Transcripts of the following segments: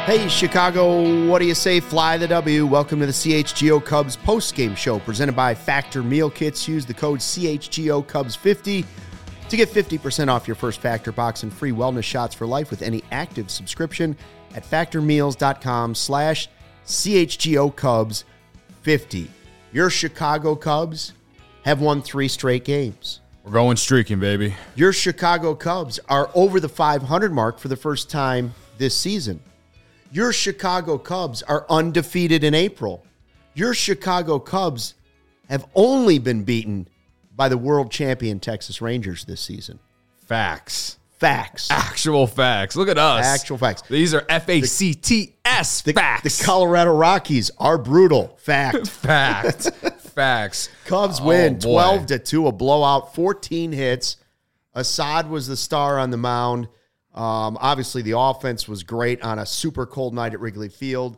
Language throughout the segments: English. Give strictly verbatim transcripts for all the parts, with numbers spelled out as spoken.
Hey, Chicago, what do you say? Fly the W. Welcome to the C H G O Cubs post-game show presented by Factor Meal Kits. Use the code C H G O Cubs fifty to get fifty percent off your first Factor box and free wellness shots for life with any active subscription at factormeals.com slash CHGO Cubs 50. Your Chicago Cubs have won three straight games. We're going streaking, baby. Your Chicago Cubs are over the five hundred mark for the first time this season. Your Chicago Cubs are undefeated in April. Your Chicago Cubs have only been beaten by the world champion Texas Rangers this season. Facts. Facts. Actual facts. Look at us. Actual facts. These are F A C T S The, facts. the Colorado Rockies are brutal. Fact. Fact. Facts. Cubs Oh, win boy. twelve to two, a blowout, fourteen hits. Assad was the star on the mound. Um, obviously, the offense was great on a super cold night at Wrigley Field.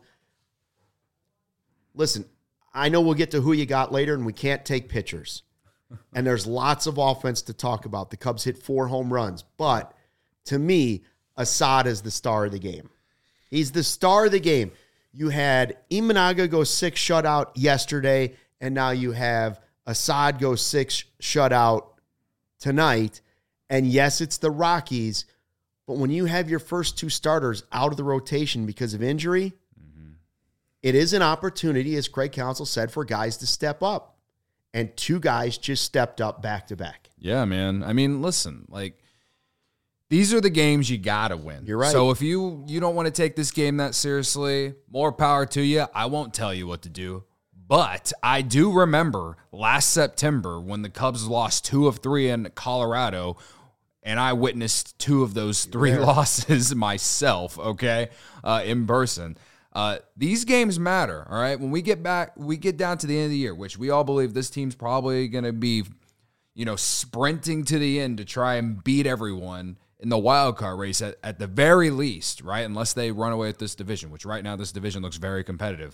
Listen, I know we'll get to who you got later, and we can't take pitchers. And there's lots of offense to talk about. The Cubs hit four home runs. But to me, Assad is the star of the game. He's the star of the game. You had Imanaga go six shutout yesterday, and now you have Assad go six shutout tonight. And yes, it's the Rockies, but when you have your first two starters out of the rotation because of injury, mm-hmm. it is an opportunity, as Craig Counsell said, for guys to step up. And two guys just stepped up back to back. Yeah, man. I mean, listen, like, these are the games you got to win. You're right. So if you, you don't want to take this game that seriously, more power to you. I won't tell you what to do. But I do remember last September when the Cubs lost two of three in Colorado, and I witnessed two of those three losses myself, okay, uh, in person. Uh, these games matter, all right? When we get back, we get down to the end of the year, which we all believe this team's probably going to be, you know, sprinting to the end to try and beat everyone in the wild card race at, at the very least, right? Unless they run away with this division, which right now this division looks very competitive.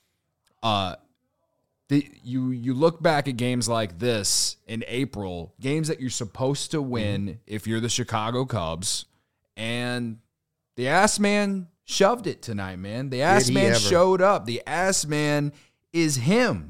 Uh, the, you you look back at games like this in April, games that you're supposed to win mm-hmm. if you're the Chicago Cubs, and the ass man shoved it tonight, man. The ass man ever. showed up. The ass man is him.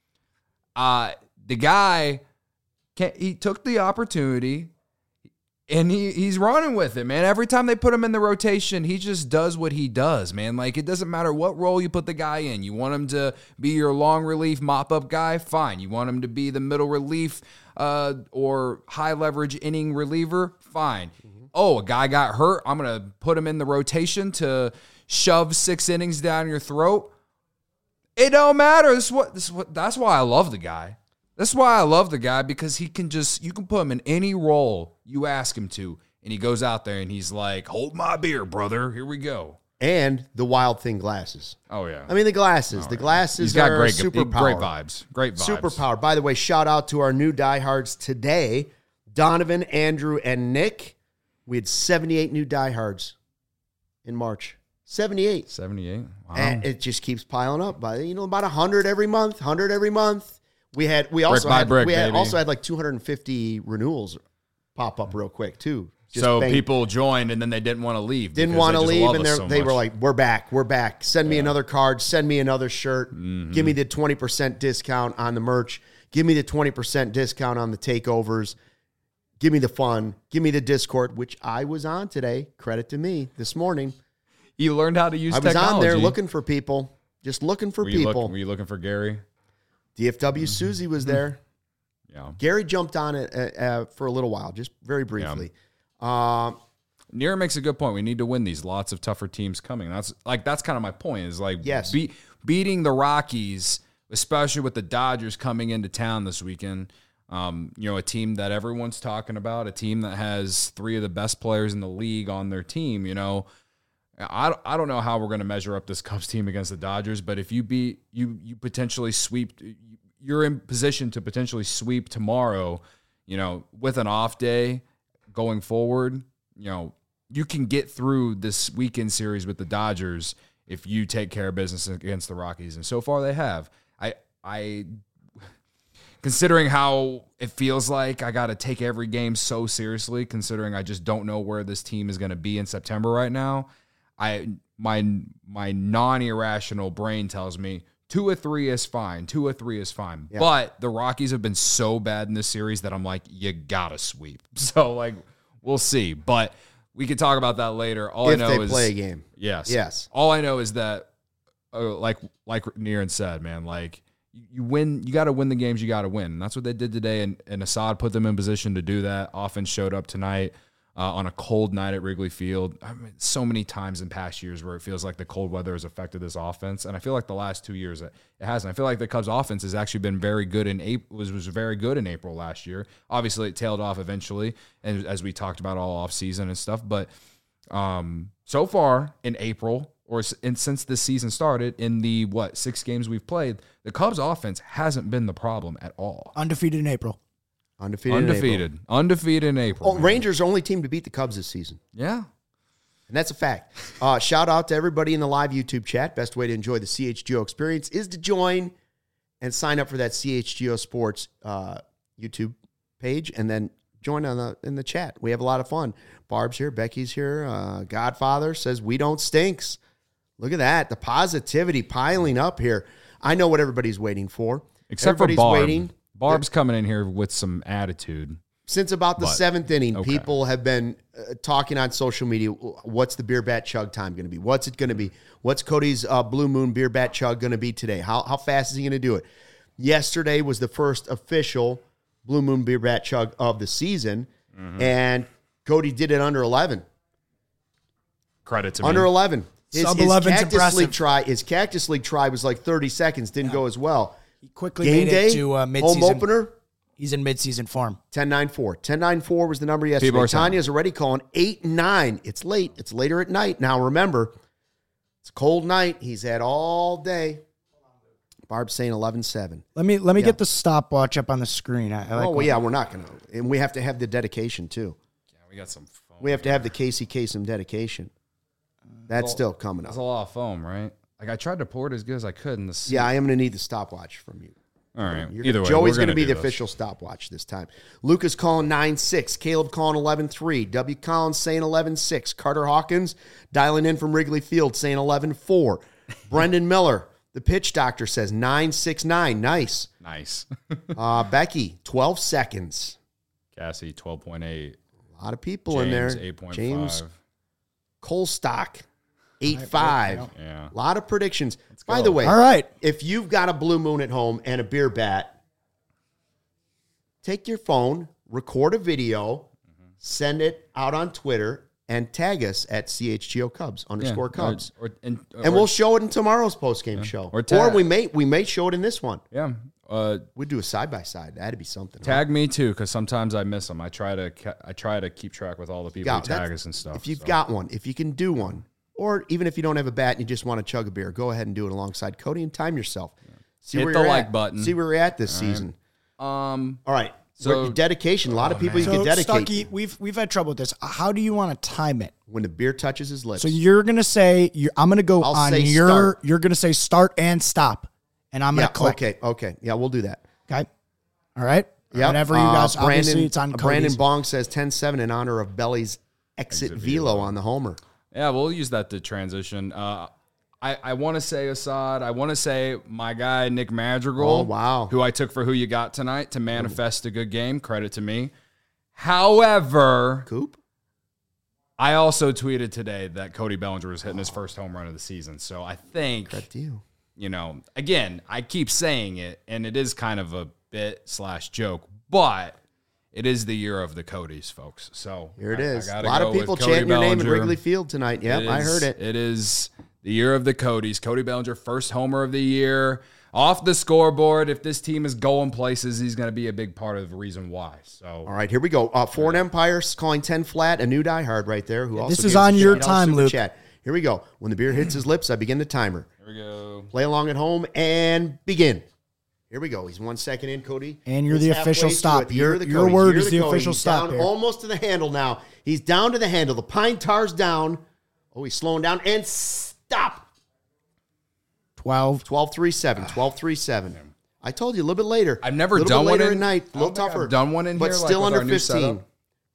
Uh, the guy, can, he took the opportunity, and he he's running with it, man. Every time they put him in the rotation, he just does what he does, man. Like, it doesn't matter what role you put the guy in. You want him to be your long relief mop-up guy? Fine. You want him to be the middle relief uh, or high-leverage inning reliever? Fine. Mm-hmm. Oh, a guy got hurt. I'm going to put him in the rotation to shove six innings down your throat. It don't matter. This is what, this is what, that's why I love the guy. That's why I love the guy, because he can just, you can put him in any role you ask him to, and he goes out there and he's like, hold my beer, brother. Here we go. And the Wild Thing glasses. Oh, yeah. I mean, the glasses. Oh, the yeah. glasses He's got are great, superpower. Great vibes. Great vibes. Superpower. By the way, shout out to our new diehards today, Donovan, Andrew, and Nick. We had seventy-eight new diehards in March. seventy-eight. seventy-eight. Wow. And it just keeps piling up. By you know, about one hundred every month, one hundred every month. We had we also brick had brick, we had, baby. also had like two hundred fifty renewals pop up real quick too. Just so bang. people joined and then they didn't want to leave. Didn't want to leave, and so they much. were like, "We're back, we're back. Send me Yeah. another card. Send me another shirt. Mm-hmm. Give me the twenty percent discount on the merch. Give me the twenty percent discount on the takeovers. Give me the fun. Give me the Discord," which I was on today. Credit to me this morning. You learned how to use I was technology. on there looking for people, just looking for were you people. Look, were you looking for Gary? D F W Susie was there. Yeah. Gary jumped on it uh, uh, for a little while, just very briefly. Yeah. Um, Nira makes a good point. We need to win these. Lots of tougher teams coming. That's like that's kind of my point. Is like yes. be, beating the Rockies, especially with the Dodgers coming into town this weekend. Um, you know, a team that everyone's talking about, a team that has three of the best players in the league on their team. You know, I I don't know how we're going to measure up this Cubs team against the Dodgers, but if you beat you you potentially sweep. You're in position to potentially sweep tomorrow, you know, with an off day going forward. You know, you can get through this weekend series with the Dodgers if you take care of business against the Rockies. And so far they have. I, I, considering how it feels like I got to take every game so seriously, considering I just don't know where this team is going to be in September right now, I my my non-irrational brain tells me two or three is fine. Two or three is fine. Yeah. But the Rockies have been so bad in this series that I'm like, you gotta sweep. So like, we'll see. But we could talk about that later. All if I know they is play a game. Yes. Yes. All I know is that, uh, like like Niran said, man, like you win. You got to win the games you got to win. And that's what they did today. And, and Assad put them in position to do that. Offense showed up tonight. Uh, on a cold night at Wrigley Field. I mean, so many times in past years where it feels like the cold weather has affected this offense, and I feel like the last two years it hasn't. I feel like the Cubs' offense has actually been very good in April. Was was very good in April last year. Obviously, it tailed off eventually, and as we talked about all off season and stuff. But um, so far in April, or in, since this season started, in the what six games we've played, the Cubs' offense hasn't been the problem at all. Undefeated in April. Undefeated. Undefeated. In Undefeated in April. Oh, Rangers are the only team to beat the Cubs this season. Yeah. And that's a fact. Uh, shout out to everybody in the live YouTube chat. Best way to enjoy the C H G O experience is to join and sign up for that C H G O Sports uh, YouTube page, and then join on the in the chat. We have a lot of fun. Barb's here. Becky's here. Uh, Godfather says we don't stinks. Look at that. The positivity piling up here. I know what everybody's waiting for. Except everybody's for Barb. waiting. Barb's coming in here with some attitude. Since about the but, seventh inning, okay. people have been uh, talking on social media, what's the beer bat chug time going to be? What's it going to be? What's Cody's uh, Blue Moon beer bat chug going to be today? How how fast is he going to do it? Yesterday was the first official Blue Moon beer bat chug of the season, mm-hmm. and Cody did it under eleven. Credit to under me. eleven. His, Sub his eleven's Cactus impressive. League try, his Cactus League try was like thirty seconds, didn't Yeah. go as well. He quickly Game made day, it to uh, home midseason. opener, He's in midseason form. ten nine four. ten nine four was the number People yesterday. are saying- Tanya's already calling eight nine. It's late. It's later at night. Now remember, it's a cold night. He's had all day. Barb's saying eleven seven. Let me let me Yeah. get the stopwatch up on the screen. I, I like Oh, well, when- yeah, we're not going to. And we have to have the dedication, too. Yeah, we got some foam. We have to have the Casey Kasem dedication. That's Well, still coming That's up. a lot of foam, right? Like, I tried to pour it as good as I could in the Yeah, I am going to need the stopwatch from you. All right. You're Either gonna, way, Joey's going going to be do the this. official stopwatch this time. Lucas calling nine six. Caleb calling eleven three. W. Collins saying eleven six. Carter Hawkins dialing in from Wrigley Field saying eleven four. Brendan Miller, the pitch doctor, says nine six nine. Nice. Nice. uh, Becky, twelve seconds. Cassie, twelve point eight. A lot of people James, in there. eight point five. James Colstock, eight five. Yeah. A lot of predictions. By go. the way, All right. if you've got a Blue Moon at home and a beer bat, take your phone, record a video, mm-hmm. send it out on Twitter, and tag us at C H G O Cubs underscore Yeah, Cubs. Or, or, and and we'll show it in tomorrow's postgame show. Or Or, tag- we may we may show it in this one. yeah. Uh, We'd do a side-by-side. That'd be something. huh? tag me too, because sometimes I miss them. I try to ca- I try to keep track with all the people Yeah, who tag that's- us and stuff. If you've so. got one, if you can do one, or even if you don't have a bat and you just want to chug a beer, go ahead and do it alongside Cody and time yourself. See Hit where the you're like at. button. See where you're at this All right. season. um, All right. So- So dedication. A lot of Oh, people man. you So can dedicate Stucky, we've we've had trouble with this. How do you want to time it? when the beer touches his lips. So you're gonna say you're, I'm gonna go I'll on say your. start. You're gonna say start and stop, and I'm gonna yeah. click. Okay. Okay. Yeah, we'll do that. Okay. All right. Yeah. Whatever you guys. Uh, obviously, Brandon, it's on uh, Brandon Cody's. Bong says ten seven in honor of Belly's exit, Exit velo, velo. on the homer. yeah, we'll use that to transition. Uh, I, I want to say Assad. I want to say my guy Nick Madrigal. Oh, wow. Who I took for who you got tonight to manifest a good game. Credit to me. However, Coop. I also tweeted today that Cody Bellinger was hitting his first home run of the season. So I think, That deal. you know, again, I keep saying it, and it is kind of a bit slash joke, but it is the year of the Codys, folks. So Here it I- I is. gotta A lot go of with people Cody chanting your name at Bellinger. Wrigley Field tonight. Yep, It I is- heard it. It is the year of the Codys. Cody Bellinger, first homer of the year. Off the scoreboard. If this team is going places, he's going to be a big part of the reason why. So, All right, here we go. Uh, Foreign Empire calling ten flat, a new diehard right there. Who also this is gives on us a your shout out time, super Luke. Chat. Here we go. When the beer hits his lips, I begin the timer. here we go. Play along at home and begin. Here we go. He's one second in, Cody. And you're He's the halfway official through stop. it. Your- You're the your Cody. word You're is the Cody. official He's stop down here. almost to the handle now. He's down to the handle. The pine tar's down. Oh, he's slowing down. And stop. twelve. twelve three seven. twelve three seven. I told you a little bit later. I've never a little done bit one later in- at night. A I little don't think tougher. I've done one in but here, like, still with under our new fifteen. setup.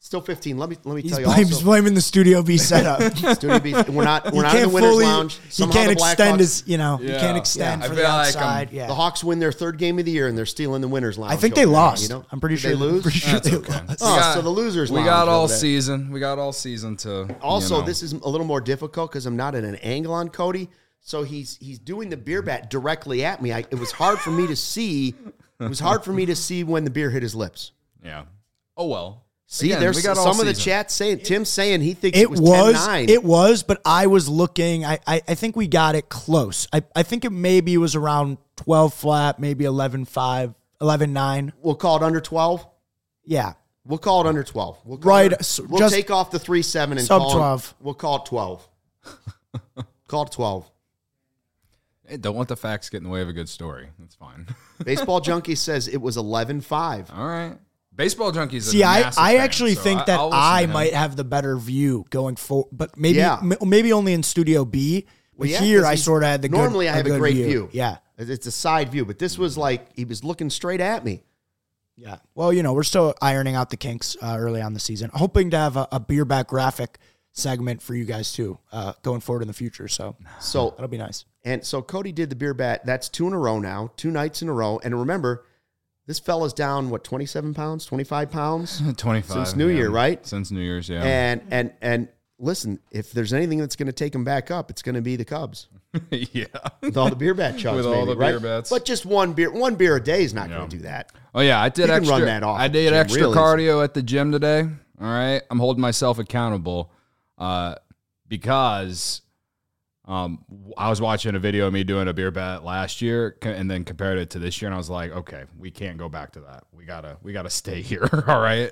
Still fifteen. Let me let me He's, tell you. blame, he's Also, blaming the Studio B setup. Studio B, we're not we're He not in the can't winners fully- lounge. He Somehow can't the Blackhawks- extend his, you know, he Yeah. can't extend Yeah. for I the feel like outside. I'm- yeah. The Hawks win their third game of the year and they're still in the winners lounge. I think they over there, lost. You know? I'm pretty Did sure they lose. Pretty sure That's they okay. lost. Oh, We got- so the losers. We lounge got all over there. season. We got all season to. Also, you know. this is a little more difficult because I'm not at an angle on Cody. So he's he's doing the beer bat directly at me. I, it was hard for me to see. It was hard for me to see when the beer hit his lips. Yeah. Oh well. See, Again, there's we got some all of the season. chat saying Tim's saying he thinks it, It was, was, ten nine. it was, but I was looking. I, I, I think we got it close. I, I think it maybe was around twelve flat, maybe eleven five, eleven nine. We'll call it under twelve. Yeah. We'll call it under twelve. We'll call Right, It, so we'll just take off the three seven and sub call it- twelve. We'll call it twelve. Call it twelve. Hey, don't let the facts get in the way of a good story. That's fine. Baseball Junkie says it was eleven five. All right. Baseball junkies. See, a I, massive I fan, actually so think that I'll listen I to him. might have the better view going forward, but maybe Yeah. m- maybe only in Studio B. But yeah, here 'cause I he's- sort of had the good, normally I have a good great view. Yeah. It's a side view, but this was like he was looking straight at me. Yeah. Well, you know, we're still ironing out the kinks uh, early on the season. Hoping to have a, a beer back graphic segment for you guys too, uh, going forward in the future. So So that'll be nice. and so Cody did the beer bat. That's two in a row now, two nights in a row. And remember, this fella's down what twenty-seven pounds, twenty-five pounds twenty-five since New yeah. Year, right? Since New Year's, yeah. And and and listen, if there's anything that's going to take him back up, it's going to be the Cubs yeah. with all the beer bat chugs, With all maybe, the right? beer bats. But just one beer, one beer a day is not Yeah. going to do that. Oh yeah, I did You can extra. run that off I at the did gym extra real easy. cardio at the gym today. All right, I'm holding myself accountable uh, because um, I was watching a video of me doing a beer bat last year, co- and then compared it to this year, and I was like, okay, we can't go back to that. We gotta, we gotta stay here. All right.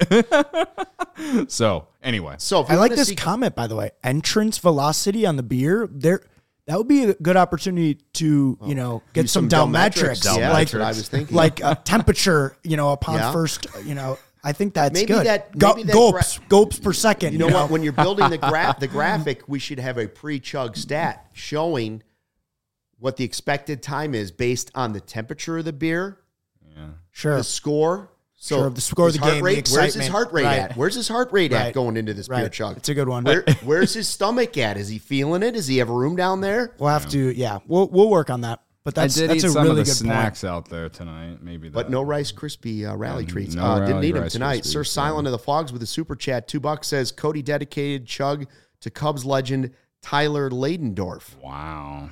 So anyway, So if you I like wanna this see- comment, by the way. Entrance velocity on the beer. There, that would be a good opportunity to, you know, get do some, some Delmetrics, Delmetrics. Yeah, like, that's what I was thinking. like uh, temperature, you know, upon Yeah. first, you know, I think that's Maybe good. that- Go- maybe that gulps, gra- gulps per second. You know what? When you're building the gra- the graphic, we should have a pre-chug stat showing what the expected time is based on the temperature of the beer, Sure. the score. So Sure, the score of his the heart game, the rate, where's his excitement. heart rate Right. at? Where's his heart rate at Right. going into this beer Right. chug? It's a good one. Where, where's his stomach at? Is he feeling it? Does he have room down there? We'll have to, yeah, we'll we'll work on that. But that's I did that's eat a some really of the good snacks out there tonight. Maybe, But that. no Rice Krispie uh, rally Yeah, treats. no uh, didn't rally need them Rice tonight. Krispies, Sir Silent of the Flogs with a super chat. Two bucks says Cody dedicated chug to Cubs legend Tyler Ladendorf. Wow.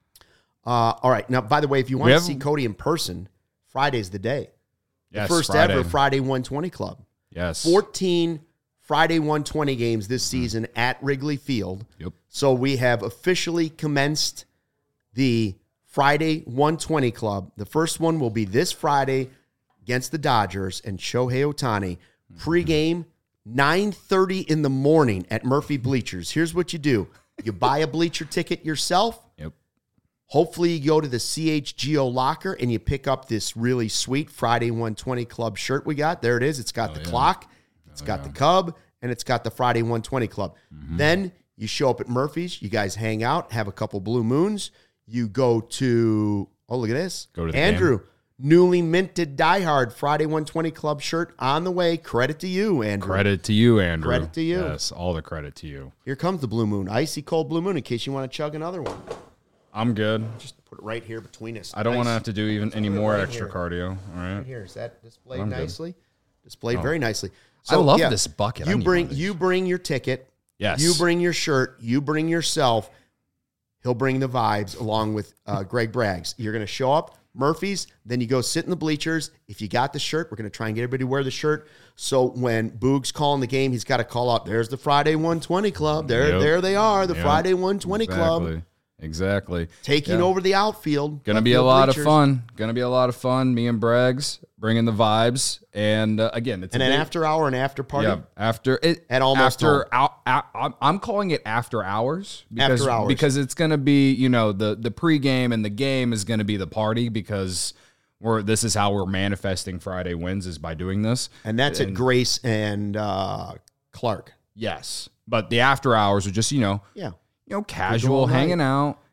Uh, all right. Now, by the way, if you want We to have- see Cody in person, Friday's the day. Yes, First Friday. ever Friday one twenty Club. Yes. fourteen Friday one twenty games this season at Wrigley Field. Yep. So we have officially commenced the Friday one twenty Club. The first one will be this Friday against the Dodgers and Shohei Ohtani. Pre-game, nine thirty in the morning at Murphy Bleachers. Here's what you do. You buy a bleacher ticket yourself. Yep. Hopefully you go to the C H G O locker and you pick up this really sweet Friday one twenty Club shirt we got. There it is. It's got the clock. It's got the Cub, and it's got the Friday one twenty Club. Then you show up at Murphy's. You guys hang out, have a couple Blue Moons. You go to, oh, look at this. Go to the Andrew, newly minted diehard Friday one twenty Club shirt on the way. Credit to you, Andrew. Credit to you, Andrew. Credit to you. Yes, all the credit to you. Here comes the Blue Moon. Icy cold Blue Moon in case you want to chug another one. I'm good. Just put it right here between us. I don't want to Nice. have to do even any more right extra here. cardio. All right. Right here. Is that displayed I'm good. nicely? Displayed very nicely. I love this bucket. I You need bring one of these. you bring your ticket. Yes. You bring your shirt. You bring yourself. He'll bring the vibes along with uh, Greg Braggs. You're going to show up, Murphy's, then you go sit in the bleachers. If you got the shirt, we're going to try and get everybody to wear the shirt. So when Boog's calling the game, he's got to call out, there's the Friday one twenty Club. There, Yep. there they are, the Yep. Friday one twenty Club. Exactly. Exactly. Taking Yeah. over the outfield. Gonna of be the a lot bleachers. of fun. Gonna be a lot of fun. Me and Braggs bringing the vibes, and uh, again, it's And a an big- after hour and after party. Yeah, after it At almost after out, I'm- I'm calling it after hours because After hours. because it's gonna be, you know, the the pregame and the game is gonna be the party because we're this is how we're manifesting Friday wins is by doing this. And that's at Grace and uh, Clark. Yes, but the after hours are just, you know, Yeah. you know, all casual night. hanging out,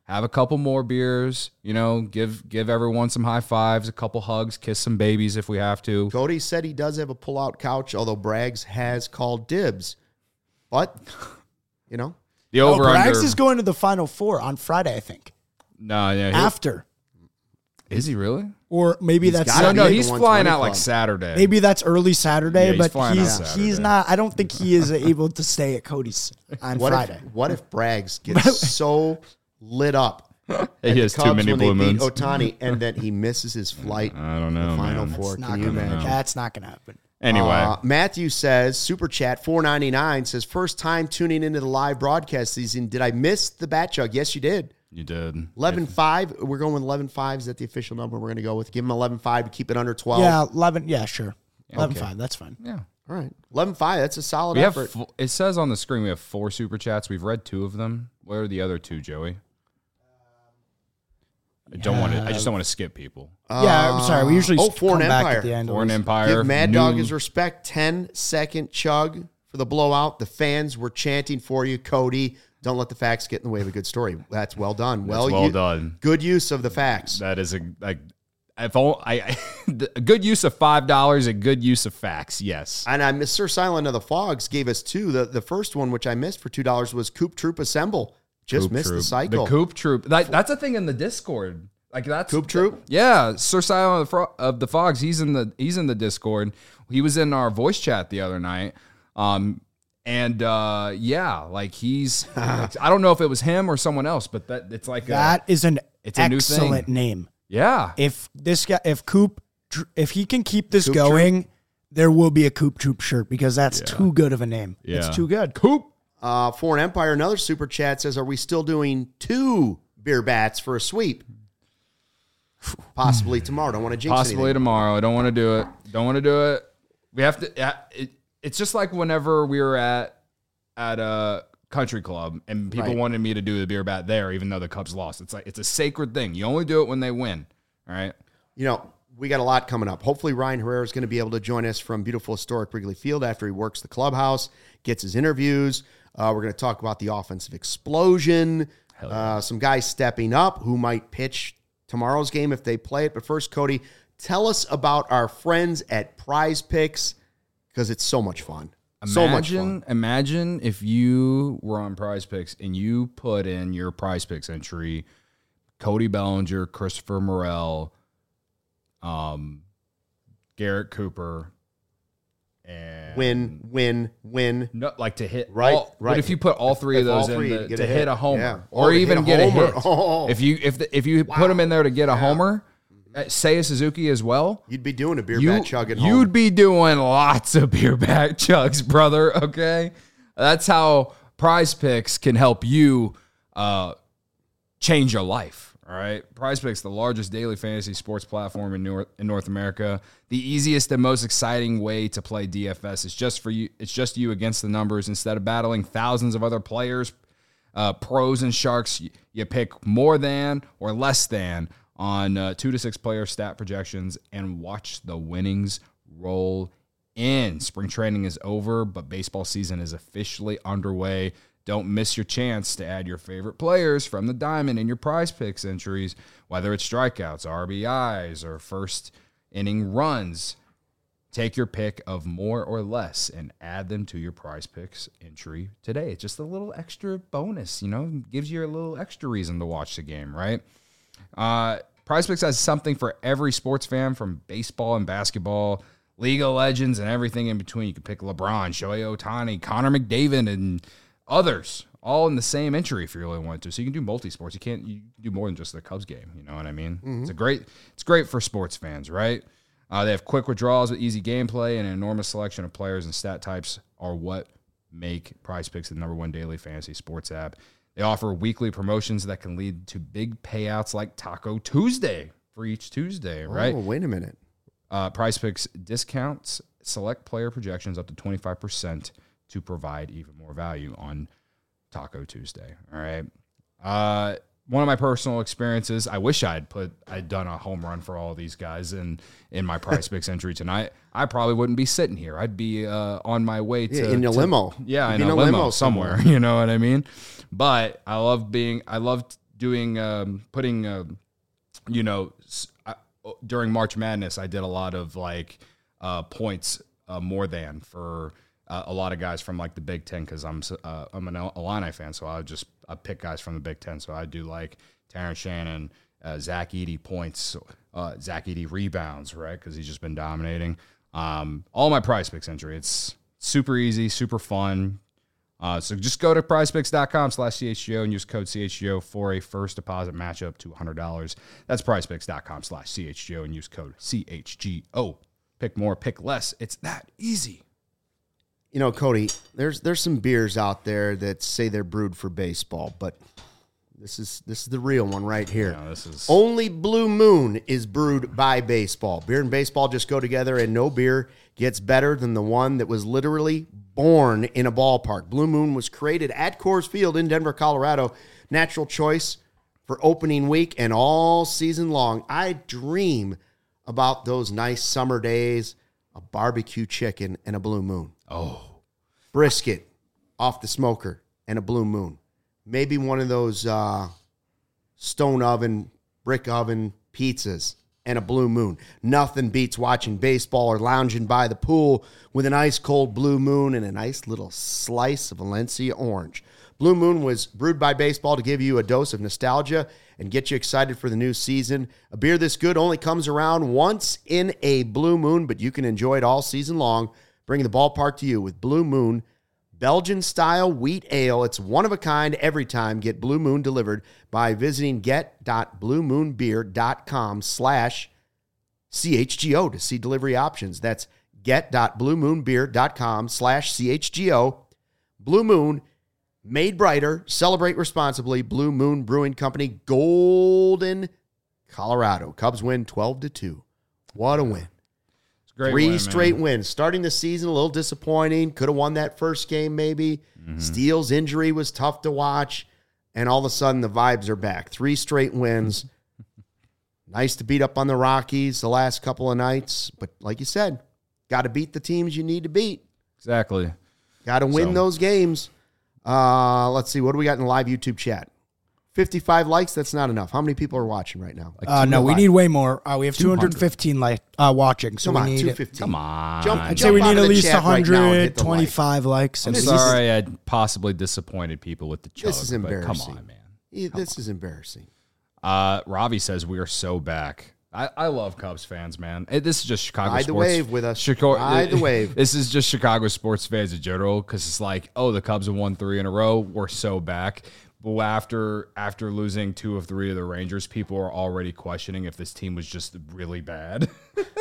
have a couple more beers, you know, give give everyone some high fives, a couple hugs, kiss some babies if we have to. Cody said he does have a pull-out couch, although Braggs has called dibs. But, you know. The Oh, over Braggs under. is going to the Final Four on Friday, I think. No, yeah. he- After. Is he really? Or maybe that's gotta No, be no, at the he's one flying twenty out like club. Saturday. maybe that's early Saturday, Yeah, he's but flying he's out he's Saturday. not. I don't think he is able to stay at Cody's on What Friday. if, what if Braggs gets so lit up at He the has too Cubs many when blue they beat moons. Otani and then he misses his flight I don't to know, the Final man. Four? It's not Can you gonna- imagine? That's not going to happen. Anyway, Uh, Matthew says, Super Chat four ninety-nine says, first time tuning into the live broadcast season. Did I miss the Bat Jug? Yes, you did. you did. eleven five. We're going with eleven five. Is that the official number we're going to go with? Give him eleven five to keep it under twelve. Yeah, eleven. Yeah, sure. Eleven Okay. five. That's fine. Yeah. All right. eleven five. That's a solid We have. effort. Fo- it says on the screen we have four super chats. We've read two of them. Where are the other two, Joey? I don't want to. I just don't want to skip people. yeah, I'm sorry. We usually oh, come Foreign back Empire. at the end. Foreign always. Empire. Give Mad new- Dog his respect. ten second chug for the blowout. The fans were chanting for you, Cody. Don't let the facts get in the way of a good story. That's well done. That's well, well you- done. Good use of the facts. That is a like. If all, I, a good use of five dollars, a good use of facts. Yes. And I miss Sir Silent of the Fogs gave us two. The the first one, which I missed for two dollars, was Coop Troop Assemble. Just Coop missed Troop. the cycle. The Coop Troop. That, that's a thing in the Discord. Like that's Coop Troop? Yeah, Sir Silent of the, Fro- of the Fogs. He's in the he's in the Discord. He was in our voice chat the other night. Um, and uh, yeah, like he's. like, I don't know if it was him or someone else, but that it's like That a, is an It's a new excellent thing. name. yeah. If this guy, if Coop, if he can keep this Coop going, there will be a Coop Troop shirt because that's too good of a name. Yeah. It's too good. Coop. Uh, Foreign Empire, another super chat says, are we still doing two beer bats for a sweep? Possibly tomorrow. Don't want to jinx Possibly anything. tomorrow. I don't want to do it. Don't want to do it. We have to. yeah, It, it's just like whenever we were at at a country club and people Right. wanted me to do the beer bat there, even though the Cubs lost. It's like it's a sacred thing. You only do it when they win. All right. You know, we got a lot coming up. Hopefully, Ryan Herrera is going to be able to join us from beautiful historic Wrigley Field after he works the clubhouse, gets his interviews. Uh, we're going to talk about the offensive explosion, uh, some guys stepping up who might pitch tomorrow's game if they play it. But first, Cody, tell us about our friends at Prize Picks because it's so much fun. so much Imagine, fun. imagine if you were on Prize Picks and you put in your Prize Picks entry, Cody Bellinger, Christopher Morel, um, Garrett Cooper, and Win, win, win. no, like to hit Right, all, right. But if you put all three If of those all three, in you the, get to a hit. hit. a homer, Yeah. or Oh, to even hit a get homer. a hit, Oh. if you if the, if you put them in there to get a homer, uh, say a Suzuki as well. You'd be doing a beer You, bat chug at you'd home. be doing lots of beer back chugs, brother. Okay, that's how Prize Picks can help you uh, change your life. All right, Prize Picks, the largest daily fantasy sports platform in North in North America, the easiest and most exciting way to play D F S. It's just for you. It's just you against the numbers. Instead of battling thousands of other players, uh, pros and sharks, you, you pick more than or less than on uh, two to six player stat projections and watch the winnings roll in. Spring training is over, but baseball season is officially underway. Don't miss your chance to add your favorite players from the diamond in your Prize Picks entries, whether it's strikeouts, R B Is, or first inning runs. Take your pick of more or less and add them to your Prize Picks entry today. It's just a little extra bonus, you know, gives you a little extra reason to watch the game, right? Uh, Prize Picks has something for every sports fan, from baseball and basketball, League of Legends, and everything in between. You can pick LeBron, Shohei Ohtani, Connor McDavid, and others, all in the same entry if you really want to. So you can do multi-sports. You can't you can do more than just the Cubs game. You know what I mean? Mm-hmm. It's a great. It's great for sports fans, right? Uh, they have quick withdrawals with easy gameplay, and an enormous selection of players and stat types are what make Prize Picks the number one daily fantasy sports app. They offer weekly promotions that can lead to big payouts like Taco Tuesday for each Tuesday, right? Oh, wait a minute. Uh, Prize Picks discounts select player projections up to twenty-five percent to provide even more value on Taco Tuesday. All right. Uh, one of my personal experiences, I wish I'd put, I'd done a home run for all of these guys in, in my Prize Picks entry tonight. I probably wouldn't be sitting here. I'd be uh, on my way to. Yeah, in your to- limo. Yeah, You'd in be a limo, somewhere, you know what I mean? But I love being, I love doing um, putting uh, you know s- I, during March Madness, I did a lot of like uh, points uh, more than for uh, a lot of guys from like the Big Ten because I'm uh, I'm an Illini fan, so I would just I pick guys from the Big Ten. So I do like Terrence Shannon, uh, Zach Edey points, uh, Zach Edey rebounds, right? Because he's just been dominating. Um, all my Prize Picks entry. It's super easy, super fun. Uh, so just go to prizepicks.com slash CHGO and use code C H G O for a first deposit match up to one hundred dollars. That's prizepicks.com slash CHGO and use code C H G O. Pick more, pick less. It's that easy. You know, Cody, there's there's some beers out there that say they're brewed for baseball, but this is this is the real one right here. No, this is Only Blue Moon is brewed by baseball. Beer and baseball just go together, and no beer gets better than the one that was literally born in a ballpark. Blue Moon was created at Coors Field in Denver, Colorado. Natural choice for opening week and all season long. I dream about those nice summer days, a barbecue chicken and a Blue Moon. Oh. Brisket off the smoker and a Blue Moon. Maybe one of those uh, stone oven, brick oven pizzas and a Blue Moon. Nothing beats watching baseball or lounging by the pool with an ice cold Blue Moon and a nice little slice of Valencia orange. Blue Moon was brewed by baseball to give you a dose of nostalgia and get you excited for the new season. A beer this good only comes around once in a Blue Moon, but you can enjoy it all season long, bringing the ballpark to you with Blue Moon Belgian-style wheat ale. It's one of a kind every time. Get Blue Moon delivered by visiting get.bluemoonbeer.com slash CHGO to see delivery options. That's get.bluemoonbeer.com slash CHGO. Blue Moon, made brighter, celebrate responsibly. Blue Moon Brewing Company, Golden, Colorado. Cubs win twelve to two. What a win. Great Three win, straight man. wins. Starting the season a little disappointing. Could have won that first game maybe. Mm-hmm. Steele's injury was tough to watch. And all of a sudden the vibes are back. Three straight wins. Nice to beat up on the Rockies the last couple of nights. But like you said, got to beat the teams you need to beat. Exactly. Got to win So- those games. Uh, let's see. What do we got in the live YouTube chat? fifty-five likes. That's not enough. How many people are watching right now? Uh, no, we need way more. Uh, we have two hundred fifteen like uh, watching, so Come we on, need. two fifteen. Come on. Jump, I'd jump say we out need of at the least chat right now and hit the like. one hundred twenty-five likes. I'm at least. sorry I possibly disappointed people with the chug. This is but embarrassing. Come on, man. Yeah, this is embarrassing. Uh, Ravi says we are so back. I, I love Cubs fans, man. It, this is just Chicago Ride the sports. wave with us. Chicago, Ride the wave. This is just Chicago sports fans in general because it's like, oh, the Cubs have won three in a row. We're so back. But after after losing two of three of the Rangers, people are already questioning if this team was just really bad.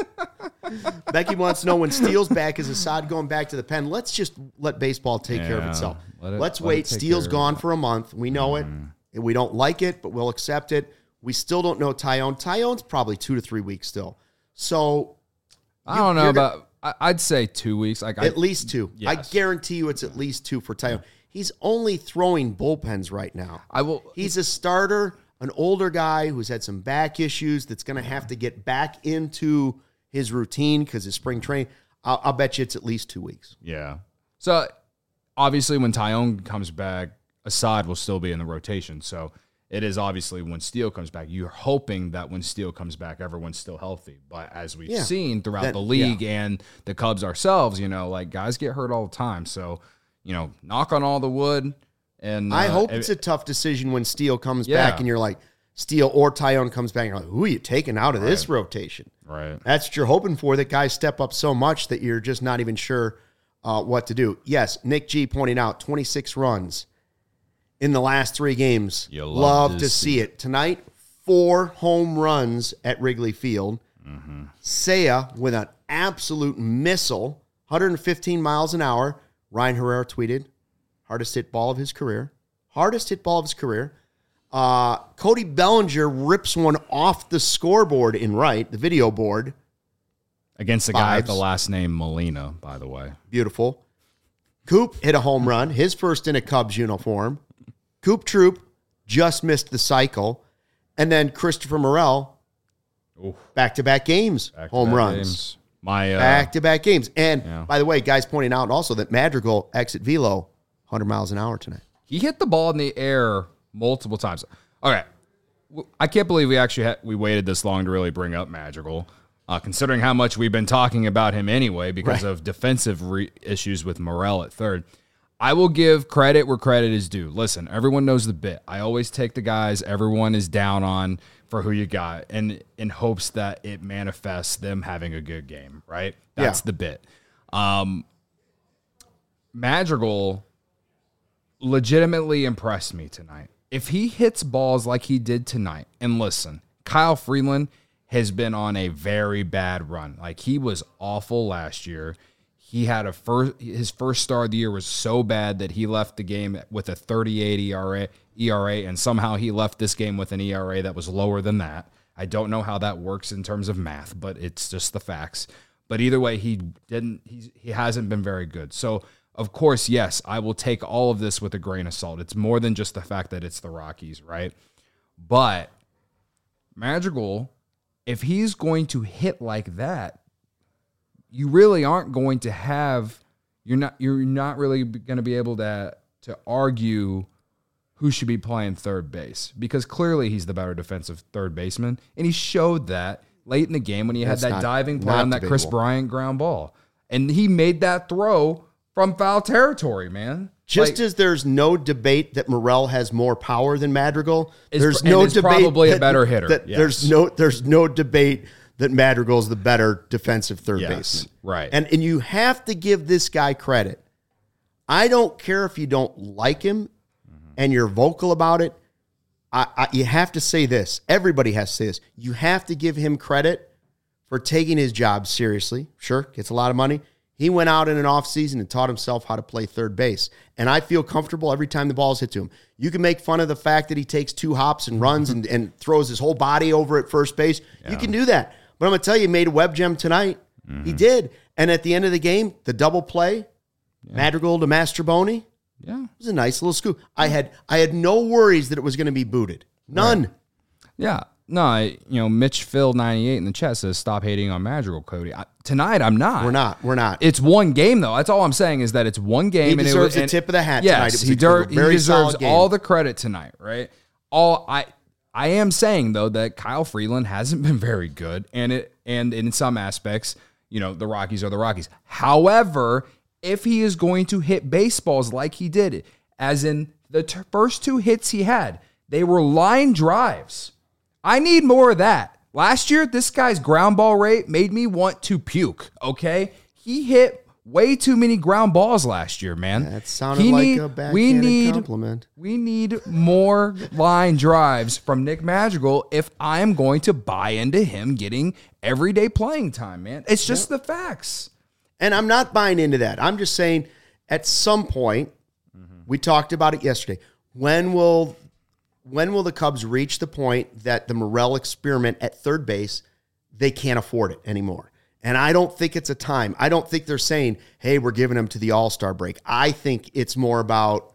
Becky wants to know when Steele's back, is Assad going back to the pen? Let's just let baseball take care of Yeah, itself. let it- Let's let wait. it take Steele's care of gone it. for a month. We know it. We don't like it, but we'll accept it. We still don't know Tyone. Tyone's probably two to three weeks still. So I don't know you're gonna- about. I, I'd say two weeks. Like I, at least two. I Yes. guarantee you it's at least two for Tyone. He's only throwing bullpens right now. I will. He's a starter, an older guy who's had some back issues that's going to have to get back into his routine because his spring training. I'll, I'll bet you it's at least two weeks. Yeah. So obviously, when Tyone comes back, Assad will still be in the rotation. So it is obviously when Steele comes back, you're hoping that when Steele comes back, everyone's still healthy. But as we've Yeah. seen throughout That- the league and the Cubs ourselves, you know, like guys get hurt all the time. So, you know, knock on all the wood. And I uh, hope it- it's a tough decision when Steele comes Yeah. back and you're like, Steele or Tyone comes back and you're like, who are you taking out of this rotation? right. That's what you're hoping for, that guys step up so much that you're just not even sure uh, what to do. Yes, Nick G pointing out twenty-six runs in the last three games. You love, love to, to see see it. Tonight, four home runs at Wrigley Field. Mm-hmm. Seiya with an absolute missile, one hundred fifteen miles an hour. Ryan Herrera tweeted, hardest hit ball of his career. Hardest hit ball of his career. Uh, Cody Bellinger rips one off the scoreboard in right, the video board. Against the guy with the Vibes. last name Molina, by the way. Beautiful. Coop hit a home run, his first in a Cubs uniform. Coop Troop just missed the cycle. And then Christopher Morel, Oof. back-to-back games, Back-to-back home runs. games. My uh, Back-to-back games. And, Yeah. by the way, guys pointing out also that Madrigal exit velo, one hundred miles an hour tonight. he hit the ball in the air multiple times. Okay. I can't believe we actually ha- we waited this long to really bring up Madrigal, uh, considering how much we've been talking about him anyway because right. of defensive re- issues with Morel at third. I will give credit where credit is due. Listen, everyone knows the bit. I always take the guys everyone is down on for who you got, and in hopes that it manifests them having a good game, right? That's yeah. the bit. Um, Madrigal legitimately impressed me tonight. If he hits balls like he did tonight, and listen, Kyle Freeland has been on a very bad run. Like, he was awful last year. He had a first, his first start of the year was so bad that he left the game with a thirty-eight E R A, E R A, and somehow he left this game with an E R A that was lower than that. I don't know how that works in terms of math, but it's just the facts. But either way, he didn't. He's, he hasn't been very good. So, of course, yes, I will take all of this with a grain of salt. It's more than just the fact that it's the Rockies, right? But Madrigal, if he's going to hit like that, you really aren't going to have. You're not. You're not really going to be able to to argue who should be playing third base, because clearly he's the better defensive third baseman, and he showed that late in the game when he That's had that not, diving play on that Chris Bryant ground ball, and he made that throw from foul territory, man. Just like, as there's no debate that Morel has more power than Madrigal, is, there's no is debate probably that, a better hitter. That yes. There's no there's no debate that Madrigal is the better defensive third yes, baseman. Right. And and you have to give this guy credit. I don't care if you don't like him mm-hmm. and you're vocal about it. I, I you have to say this. Everybody has to say this. You have to give him credit for taking his job seriously. Sure, gets a lot of money. He went out in an offseason and taught himself how to play third base. And I feel comfortable every time the ball is hit to him. You can make fun of the fact that he takes two hops and runs and, and throws his whole body over at first base. Yeah. You can do that. But I'm going to tell you, he made a web gem tonight. Mm-hmm. He did. And at the end of the game, the double play, yeah. Madrigal to Mastroboni, yeah, it was a nice little scoop. I had I had no worries that it was going to be booted. None. Right. Yeah. No, I, you know, Mitch Phil ninety-eight in the chat says, stop hating on Madrigal, Cody. I, tonight, I'm not. We're not. We're not. It's one game, though. That's all I'm saying is that it's one game. He deserves and it was, the and, tip of the hat yes, tonight. It was he, a, der- a very he deserves solid game. all the credit tonight, right? All I I am saying, though, that Kyle Freeland hasn't been very good, and it and in some aspects, you know, the Rockies are the Rockies. However, if he is going to hit baseballs like he did, as in the t- first two hits he had, they were line drives. I need more of that. Last year, this guy's ground ball rate made me want to puke, okay? He hit way too many ground balls last year, man. That sounded he like need, a backhanded we need, compliment. We need more line drives from Nick Madrigal if I am going to buy into him getting everyday playing time, man. It's just yep. the facts. And I'm not buying into that. I'm just saying at some point, mm-hmm. we talked about it yesterday, when will... When will the Cubs reach the point that the Morel experiment at third base, they can't afford it anymore? And I don't think it's a time. I don't think they're saying, hey, we're giving him to the All-Star break. I think it's more about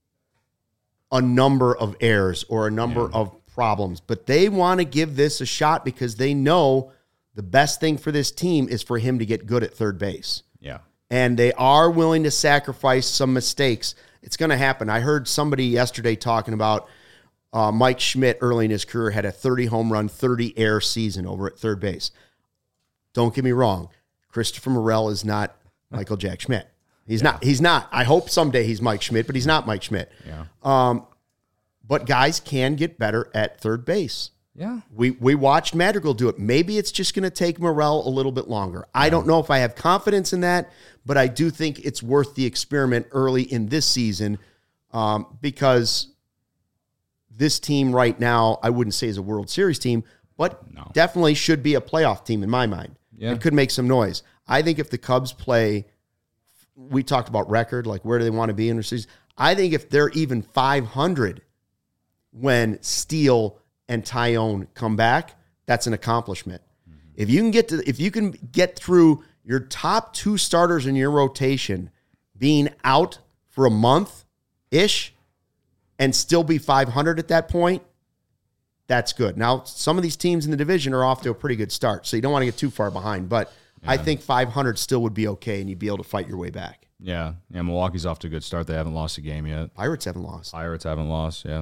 a number of errors or a number yeah. of problems. But they want to give this a shot because they know the best thing for this team is for him to get good at third base. Yeah. And they are willing to sacrifice some mistakes. It's going to happen. I heard somebody yesterday talking about Uh, Mike Schmidt, early in his career, had a thirty home run, thirty air season over at third base. Don't get me wrong. Christopher Morel is not Michael Jack Schmidt. He's yeah. not. He's not. I hope someday he's Mike Schmidt, but he's not Mike Schmidt. Yeah. Um, but guys can get better at third base. Yeah. We we watched Madrigal do it. Maybe it's just going to take Morel a little bit longer. I yeah. don't know if I have confidence in that, but I do think it's worth the experiment early in this season um, because this team right now, I wouldn't say is a World Series team, but no. definitely should be a playoff team in my mind. Yeah. It could make some noise. I think if the Cubs play, we talked about record, like where do they want to be in the season? I think if they're even five hundred when Steele and Tyone come back, that's an accomplishment. Mm-hmm. If you can get to, if you can get through your top two starters in your rotation being out for a month-ish, and still be five hundred at that point, that's good. Now, some of these teams in the division are off to a pretty good start, so you don't want to get too far behind. But yeah. I think five hundred still would be okay, and you'd be able to fight your way back. Yeah, yeah. Milwaukee's off to a good start. They haven't lost a game yet. Pirates haven't lost. Pirates haven't lost, yeah.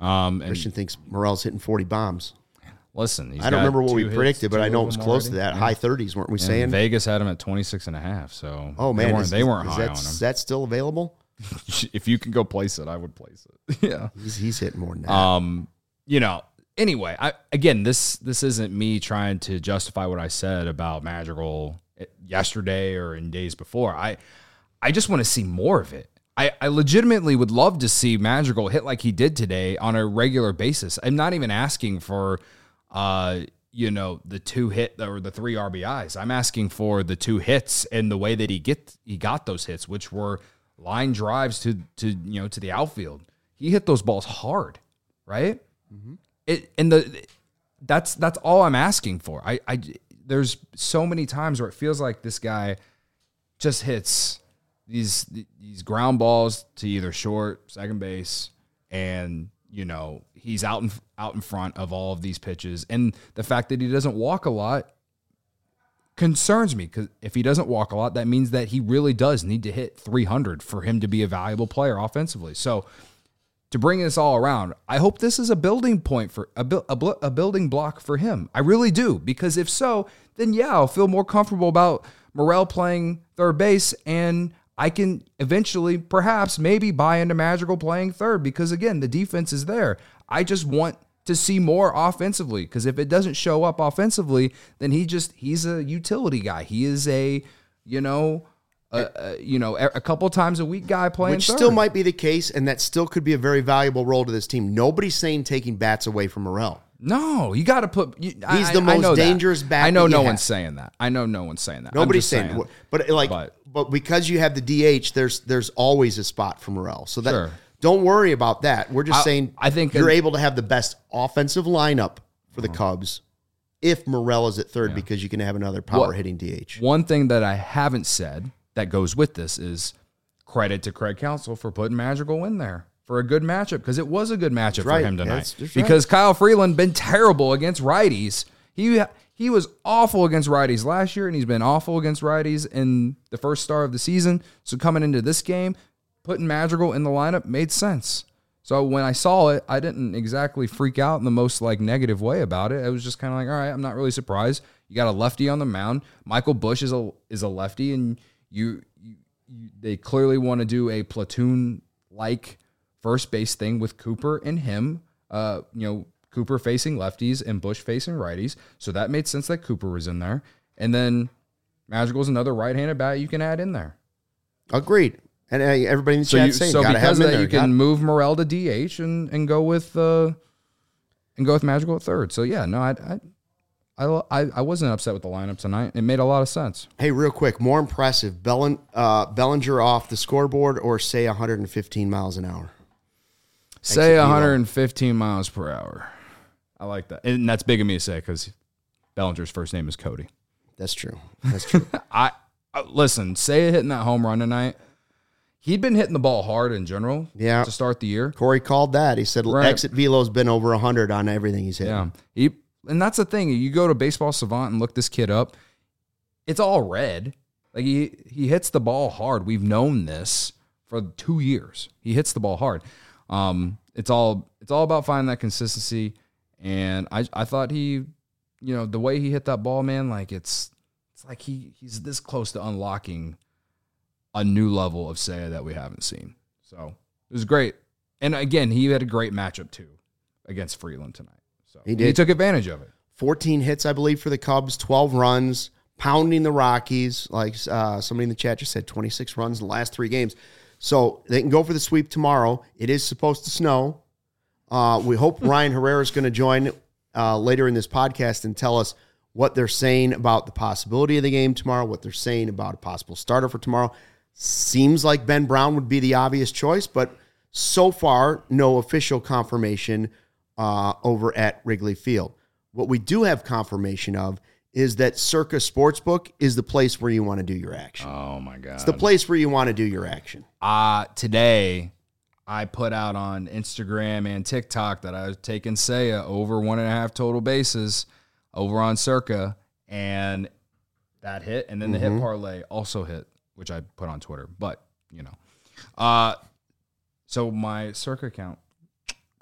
Um, and Christian thinks Morel's hitting forty bombs. listen, he's I don't got remember what two we hits, predicted, but two I know it of was them close to already. that. Yeah. High thirties, weren't we And saying? Vegas had him at twenty-six and a half. So Oh, man. they weren't, is- they weren't is high that, on him. Is that still available? If you can go place it, I would place it. yeah. He's, he's hitting more than that. Um, you know, anyway, I again, this this isn't me trying to justify what I said about Madrigal yesterday or in days before. I I just want to see more of it. I, I legitimately would love to see Madrigal hit like he did today on a regular basis. I'm not even asking for, uh, you know, the two hit or the three R B Is. I'm asking for the two hits and the way that he get he got those hits, which were line drives to to you know to the outfield. He hit those balls hard, right? Mm-hmm. It and the that's that's all I'm asking for. I I there's so many times where it feels like this guy just hits these these ground balls to either short, second base, and you know he's out in out in front of all of these pitches. And the fact that he doesn't walk a lot concerns me, because if he doesn't walk a lot, that means that he really does need to hit three hundred for him to be a valuable player offensively. So to bring this all around, I hope this is a building point for a, a, a building block for him. I really do, because if so, then yeah, I'll feel more comfortable about Morel playing third base, and I can eventually, perhaps, maybe buy into Madrigal playing third, because again, the defense is there. I just want to see more offensively, because if it doesn't show up offensively, then he just he's a utility guy. He is a, you know, a, a, you know, a couple times a week guy playing Which third. still might be the case, and that still could be a very valuable role to this team. Nobody's saying taking bats away from Morel. No, you got to put. You, He's I, the I know most that. dangerous bat I know that you no have. one's saying that. I know no one's saying that. I'm Nobody's just saying, saying, but like, but- but, because you have the D H, there's there's always a spot for Morel. So that Sure. don't worry about that. We're just I- saying, I think you're that- able to have the best offensive lineup for the Cubs if Morel is at third, because you can have another power What- hitting D H. One thing that I haven't said that goes with this is credit to Craig Counsell for putting Madrigal in there for a good matchup, because it was a good matchup right. for him tonight. That's- that's right. Because Kyle Freeland been terrible against righties. He he was awful against righties last year, and he's been awful against righties in the first start of the season. So coming into this game, putting Madrigal in the lineup made sense. So when I saw it, I didn't exactly freak out in the most like negative way about it. I was just kind of like, all right, I'm not really surprised. You got a lefty on the mound. Michael Busch is a is a lefty, and you, you, you they clearly want to do a platoon like first base thing with Cooper and him. Uh, you know, Cooper facing lefties and Busch facing righties. So that made sense that Cooper was in there. And then Madrigal's another right-handed bat you can add in there. Agreed. And uh, everybody in the So, chat you, saying, so gotta have because him of in that, there. you can Got- move Morel to D H and, and go with uh, and go with Madrigal at third. So yeah, no, I I, I I wasn't upset with the lineup tonight. It made a lot of sense. Hey, real quick, more impressive, Bellen, uh, Bellinger off the scoreboard or say one hundred fifteen miles an hour? Say Exit one velo. hundred fifteen miles per hour. I like that, and that's big of me to say because Bellinger's first name is Cody. That's true. That's true. I uh, listen. Say hitting that home run tonight. He'd been hitting the ball hard in general. Yeah. To start the year. Corey called that. He said Right. exit velo's been over one hundred on everything he's hit. Yeah. He, and that's the thing. You go to Baseball Savant and look this kid up. It's all red. Like he he hits the ball hard. We've known this for two years. He hits the ball hard. Um, it's all it's all about finding that consistency. And I I thought he, you know, the way he hit that ball, man, like it's it's like he he's this close to unlocking a new level of Seiya that we haven't seen. So it was great. And again, he had a great matchup too against Freeland tonight. So He did. He took advantage of it. fourteen hits, I believe, for the Cubs, twelve runs, pounding the Rockies. Like uh, somebody in the chat just said, twenty-six runs in the last three games. So they can go for the sweep tomorrow. It is supposed to snow. Uh, we hope Ryan Herrera is going to join uh, later in this podcast and tell us what they're saying about the possibility of the game tomorrow, what they're saying about a possible starter for tomorrow. Seems like Ben Brown would be the obvious choice, but so far, no official confirmation uh, over at Wrigley Field. What we do have confirmation of is that Circa Sportsbook is the place where you want to do your action. Oh my God. It's the place where you want to do your action. Uh, today, I put out on Instagram and TikTok that I was taking Seiya over one and a half total bases over on Circa, and that hit. And then the hit parlay also hit, which I put on Twitter. But, you know. Uh, so my Circa account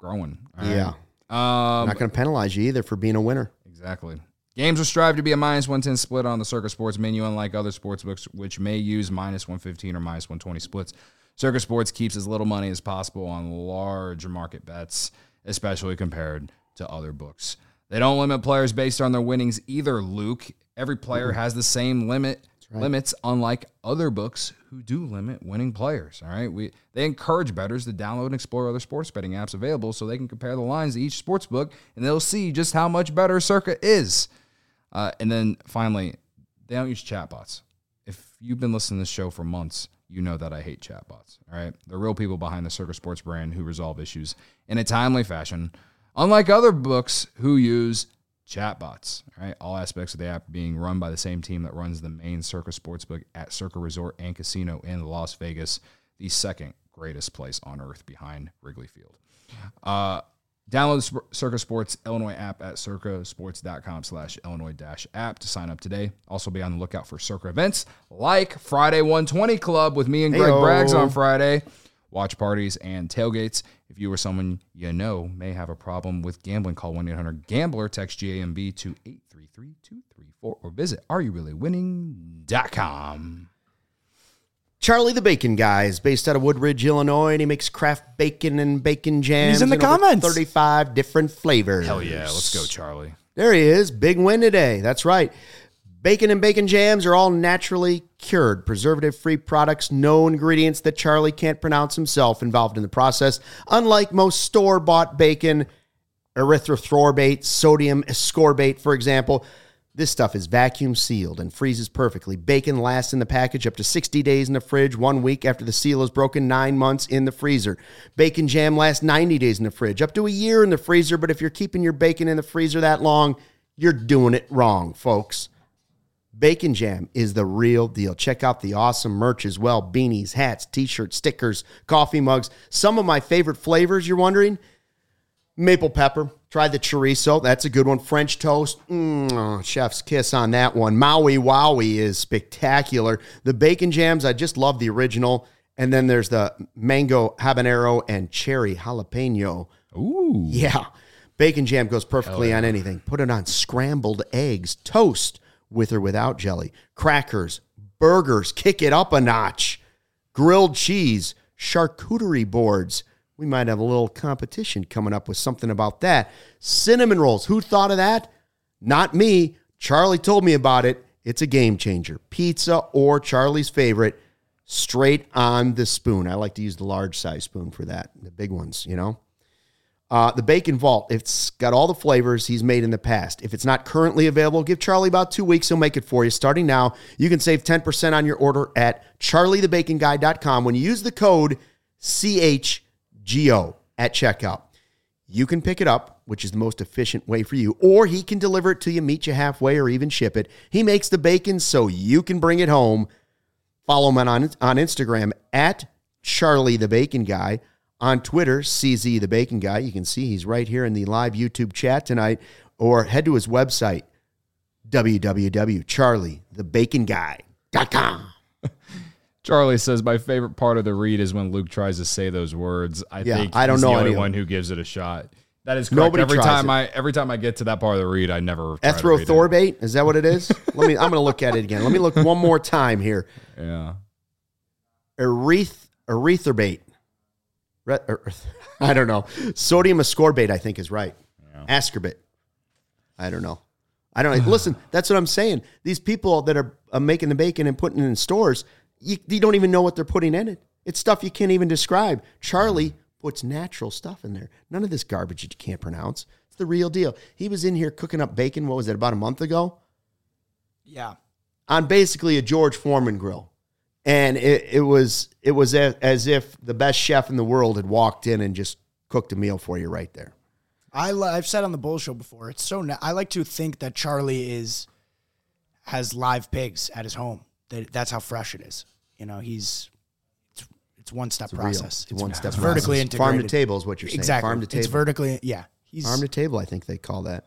growing. All right? Yeah. Um, Not going to penalize you either for being a winner. Exactly. Games will strive to be a minus one ten split on the Circa Sports menu, unlike other sports books, which may use minus one fifteen or minus one twenty splits. Circa Sports keeps as little money as possible on large market bets, especially compared to other books. They don't limit players based on their winnings either, Luke. Every player has the same limit right. limits, unlike other books who do limit winning players. All right, we they encourage bettors to download and explore other sports betting apps available so they can compare the lines to each sports book, and they'll see just how much better Circa is. Uh, and then finally, they don't use chatbots. If you've been listening to this show for months, you know that I hate chatbots. All right, they're real people behind the Circa Sports brand who resolve issues in a timely fashion, unlike other books who use chatbots. All right, all aspects of the app being run by the same team that runs the main Circa Sportsbook at Circa Resort and Casino in Las Vegas, the second greatest place on earth behind Wrigley Field. Uh, download the Circa Sports Illinois app at circasports.com slash Illinois dash app to sign up today. Also be on the lookout for Circa events like Friday one twenty Club with me and Greg Hey-o. Braggs on Friday, watch parties, and tailgates. If you or someone you know may have a problem with gambling, call one eight hundred gambler, text G A M B to eight three three two three four, or visit are you really winning dot com. Charlie the Bacon Guy is based out of Woodridge, Illinois, and he makes craft bacon and bacon jams. He's in the over comments. thirty-five different flavors. Hell yeah, let's go, Charlie. There he is. Big win today. That's right. Bacon and bacon jams are all naturally cured, preservative-free products, no ingredients that Charlie can't pronounce himself involved in the process. Unlike most store-bought bacon, erythrithorbate, sodium ascorbate, for example, this stuff is vacuum sealed and freezes perfectly. Bacon lasts in the package up to sixty days in the fridge, one week after the seal is broken, nine months in the freezer. Bacon jam lasts ninety days in the fridge, up to a year in the freezer, but if you're keeping your bacon in the freezer that long, you're doing it wrong, folks. Bacon Jam is the real deal. Check out the awesome merch as well. Beanies, hats, t-shirts, stickers, coffee mugs. Some of my favorite flavors, you're wondering? Maple pepper. Try the chorizo. That's a good one. French toast. Mm, oh, chef's kiss on that one. Maui Wowie is spectacular. The bacon jams, I just love the original. And then there's the mango habanero and cherry jalapeno. Ooh. Yeah. Bacon jam goes perfectly yeah. on anything. Put it on scrambled eggs, toast, with or without jelly, crackers, burgers, kick it up a notch, grilled cheese, charcuterie boards. We might have a little competition coming up with something about that. Cinnamon rolls. Who thought of that? Not me. Charlie told me about it. It's a game changer. Pizza or Charlie's favorite, straight on the spoon. I like to use the large size spoon for that. The big ones, you know. Uh, the Bacon Vault, it's got all the flavors he's made in the past. If it's not currently available, give Charlie about two weeks. He'll make it for you. Starting now, you can save ten percent on your order at charlie the bacon guy dot com when you use the code C H G O at checkout. You can pick it up, which is the most efficient way for you, or he can deliver it to you, meet you halfway, or even ship it. He makes the bacon so you can bring it home. Follow him on, on Instagram at Charlie the Bacon Guy. On Twitter, C Z the Bacon Guy. You can see he's right here in the live YouTube chat tonight. Or head to his website, w w w dot charlie the bacon guy dot com. Charlie says, my favorite part of the read is when Luke tries to say those words. I yeah, think I don't he's know the only anyone. one who gives it a shot. That is correct. Nobody every tries time it. I every time I get to that part of the read, I never try to read it. Erythrithorbate? Is that what it is? Let me. I'm going to look at it again. Let me look one more time here. Yeah. Eryth, erytherbate. Re, er, I don't know. Sodium ascorbate, I think, is right. Yeah. Ascorbate. I don't know. I don't know. Listen, that's what I'm saying. These people that are uh, making the bacon and putting it in stores, you, you don't even know what they're putting in it. It's stuff you can't even describe. Charlie puts natural stuff in there. None of this garbage you can't pronounce. It's the real deal. He was in here cooking up bacon, what was it, about a month ago? Yeah. On basically a George Foreman grill. And it, it was it was a, as if the best chef in the world had walked in and just cooked a meal for you right there. I li- I've said on the Bull Show before, it's so na- I like to think that Charlie is has live pigs at his home. That that's how fresh it is. You know, he's it's, it's one step It's process. Real. It's one step it's process. vertically integrated. Farm to table is what you're saying. Exactly. Farm to table. It's vertically yeah. He's Farm to table, I think they call that.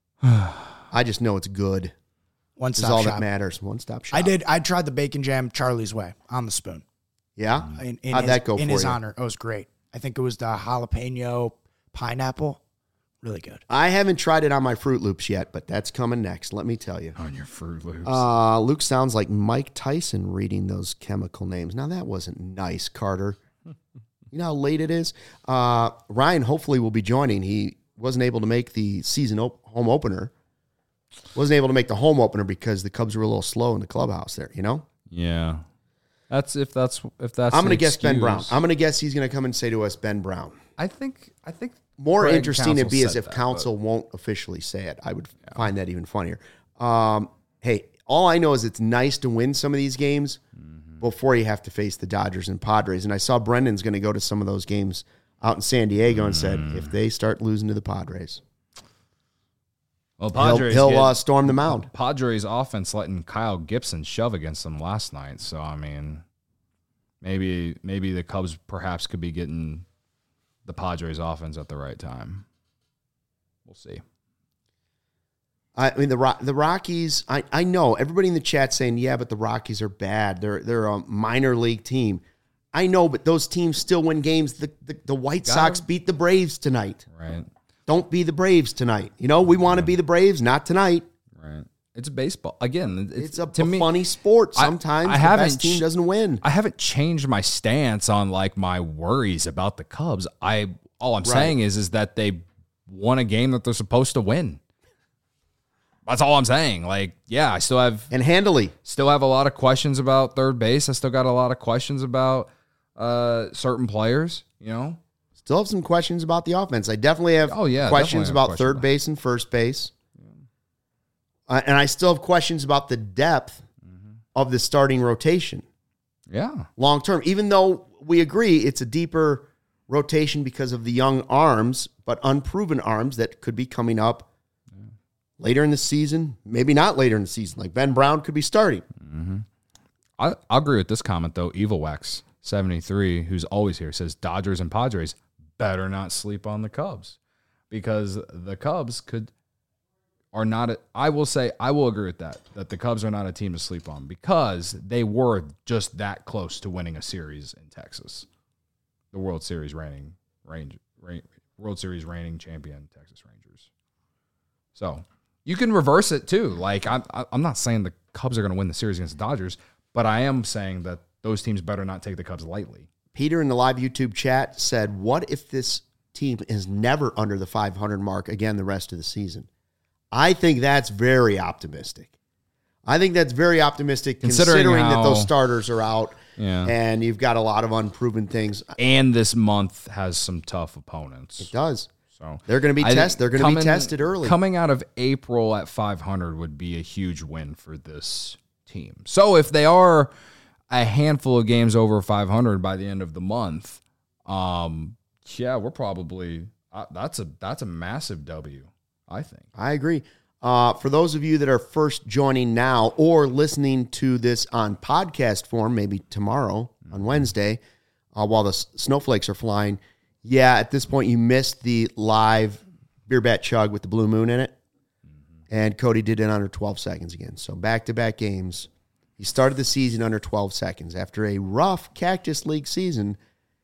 I just know it's good. one It's stop all shop. that matters. One stop shop. I did. I tried the bacon jam Charlie's way on the spoon. Yeah? In, in How'd his, that go in for his you? honor? It was great. I think it was the jalapeno pineapple. Really good. I haven't tried it on my Fruit Loops yet, but that's coming next. Let me tell you. On your Fruit Loops. Uh, Luke sounds like Mike Tyson reading those chemical names. Now, that wasn't nice, Carter. You know how late it is? Uh, Ryan hopefully will be joining. He wasn't able to make the season op- home opener. Wasn't able to make the home opener because the Cubs were a little slow in the clubhouse there, you know? Yeah. That's if that's if that's I'm going to the guess Ben excuse. Brown. I'm going to guess he's going to come and say to us, Ben Brown. I think I think More Craig interesting it'd Counsell be as said if that, counsel won't officially say it. I would find that even funnier. Um, hey, all I know is it's nice to win some of these games mm-hmm. before you have to face the Dodgers and Padres. And I saw Brendan's going to go to some of those games out in San Diego and said, if they start losing to the Padres, well, he'll, Padres he'll get- uh, storm the mound. Padres offense letting Kyle Gibson shove against them last night. So I mean, maybe maybe the Cubs perhaps could be getting the Padres offense at the right time. We'll see. I mean, the Ro- the Rockies, I, I know everybody in the chat saying, yeah, but the Rockies are bad. They're they're a minor league team. I know, but those teams still win games. The the, the White Got Sox him. beat the Braves tonight. Right. Don't be the Braves tonight. You know, we want to be the Braves, not tonight. Right. It's baseball. Again, it's, It's a, to a me, funny sport. I- Sometimes I the haven't best team ch- doesn't win. I haven't changed my stance on like my worries about the Cubs. I all I'm Right. saying is is that they won a game that they're supposed to win. That's all I'm saying. Like, yeah, I still have And handily. still have a lot of questions about third base. I still got a lot of questions about uh, certain players, you know. Still have some questions about the offense. I definitely have Oh, yeah, questions definitely have about questions third about- base and first base. Uh, and I still have questions about the depth Mm-hmm. of the starting rotation Yeah. long term, even though we agree it's a deeper rotation because of the young arms, but unproven arms that could be coming up later in the season, maybe not later in the season. Like Ben Brown could be starting. I, I agree with this comment, though. Evil Wax seventy-three, who's always here, says Dodgers and Padres better not sleep on the Cubs because the Cubs could are not a, I will say I will agree with that that the Cubs are not a team to sleep on because they were just that close to winning a series in Texas, the World Series reigning range, reign, World Series reigning champion Texas Rangers. So you can reverse it too. Like I'm I'm not saying the Cubs are going to win the series against the Dodgers, but I am saying that those teams better not take the Cubs lightly. Peter in the live YouTube chat said, what if this team is never under the five hundred mark again the rest of the season? I think that's very optimistic. I think that's very optimistic considering, Considering that how- those starters are out Yeah. and you've got a lot of unproven things. And this month has some tough opponents. It does. So They're going to be I think tested. They're going to be coming- tested early. Coming out of April at five hundred would be a huge win for this team. So if they are a handful of games over five hundred by the end of the month, um, yeah, we're probably uh, that's a that's a massive W, I think. I agree. Uh, for those of you that are first joining now or listening to this on podcast form, maybe tomorrow on Wednesday, uh, while the s- snowflakes are flying, yeah, at this point you missed the live beer bat chug with the blue moon in it. And Cody did it under twelve seconds again. So back-to-back games. He started the season under twelve seconds. After a rough Cactus League season,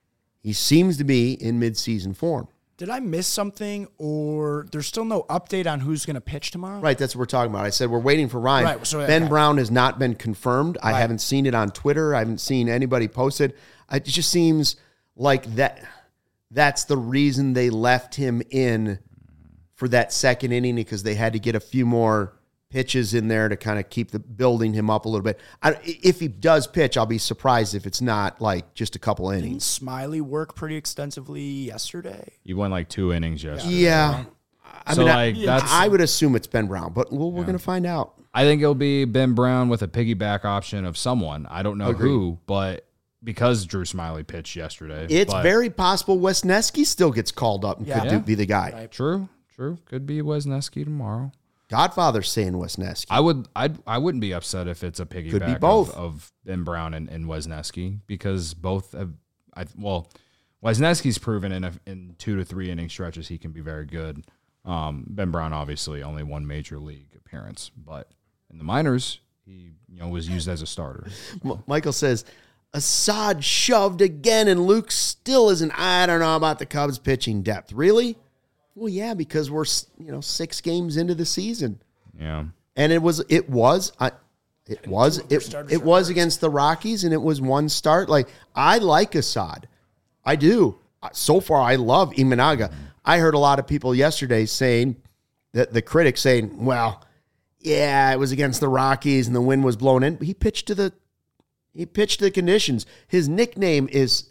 he seems to be in mid-season form. Did I miss something, or there's still no update on who's going to pitch tomorrow? Right, that's what we're talking about. I said we're waiting for Ryan. Right, so- Ben okay. Brown has not been confirmed. I Right. haven't seen it on Twitter. I haven't seen anybody post it. It just seems like that. That's the reason they left him in for that second inning because they had to get a few more pitches in there to kind of keep the building him up a little bit. I, if he does pitch, I'll be surprised if it's not like just a couple Didn't innings. Smiley work pretty extensively yesterday? You won like two innings yesterday. Yeah. I So, mean, like, I, that's- I would assume it's Ben Brown, but we'll, we're going to find out. I think it'll be Ben Brown with a piggyback option of someone. I don't know Agreed. who, but because Drew Smiley pitched yesterday. It's but very possible Wesneski still gets called up and Yeah. could Yeah. do, be the guy. Right. True, true. Could be Wesneski tomorrow. Godfather's saying Wesneski. I would I I wouldn't be upset if it's a piggyback Could be both. Of, of Ben Brown and, and Wesneski because both have I well Wesneski's proven in a, in two to three inning stretches he can be very good. Um, Ben Brown obviously only one major league appearance, but in the minors he you know was used as a starter. M- Michael says, Assad shoved again, and Luke still isn't. I don't know about the Cubs pitching depth. Really? Well, yeah, because we're you know six games into the season. Yeah, and it was it was I, it was it, it was against the Rockies, and it was one start. Like I like Assad, I do. So far, I love Imanaga. I heard a lot of people yesterday saying that the critics saying, "Well, yeah, it was against the Rockies, and the wind was blown in." He pitched to the he pitched to the conditions. His nickname is.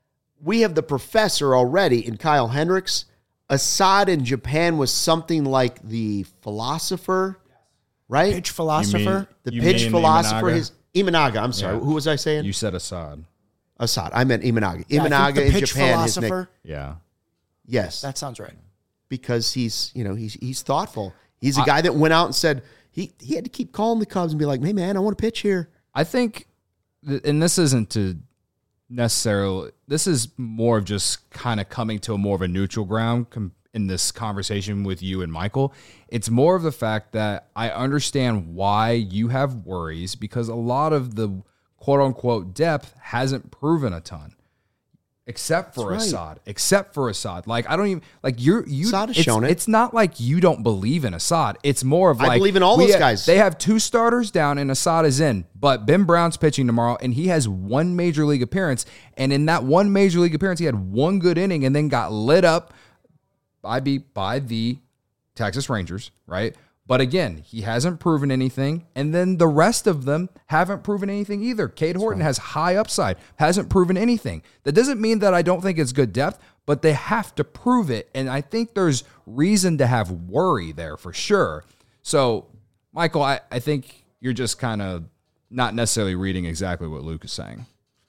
We have the professor already in Kyle Hendricks. Assad in Japan was something like the philosopher, right? Pitch philosopher. The You pitch mean philosopher. Imanaga? His Imanaga. I'm sorry. Yeah. Who was I saying? You said Assad. Assad. I meant Imanaga. Yeah, I think Imanaga the in pitch Japan. His nick, philosopher. Yeah. yes, That sounds right. because he's you know he's he's thoughtful. He's a guy that went out and said he he had to keep calling the Cubs and be like, "Hey man, I want to pitch here." I think, th- and this isn't to necessarily, this is more of just kind of coming to a more of a neutral ground com- in this conversation with you and Michael. It's more of the fact that I understand why you have worries because a lot of the quote unquote depth hasn't proven a ton. Except for That's right. Assad. Except for Assad. Like, I don't even, like, you're, you, Assad has it's, shown it. it's not like you don't believe in Assad. It's more of I like, believe in all we those ha- guys. They have two starters down and Assad is in, but Ben Brown's pitching tomorrow and he has one major league appearance. And in that one major league appearance, he had one good inning and then got lit up by, be, by the Texas Rangers, right? But again, he hasn't proven anything. And then the rest of them haven't proven anything either. Cade Horton has high upside, hasn't proven anything. That doesn't mean that I don't think it's good depth, but they have to prove it. And I think there's reason to have worry there for sure. So, Michael, I, I think you're just kind of not necessarily reading exactly what Luke is saying.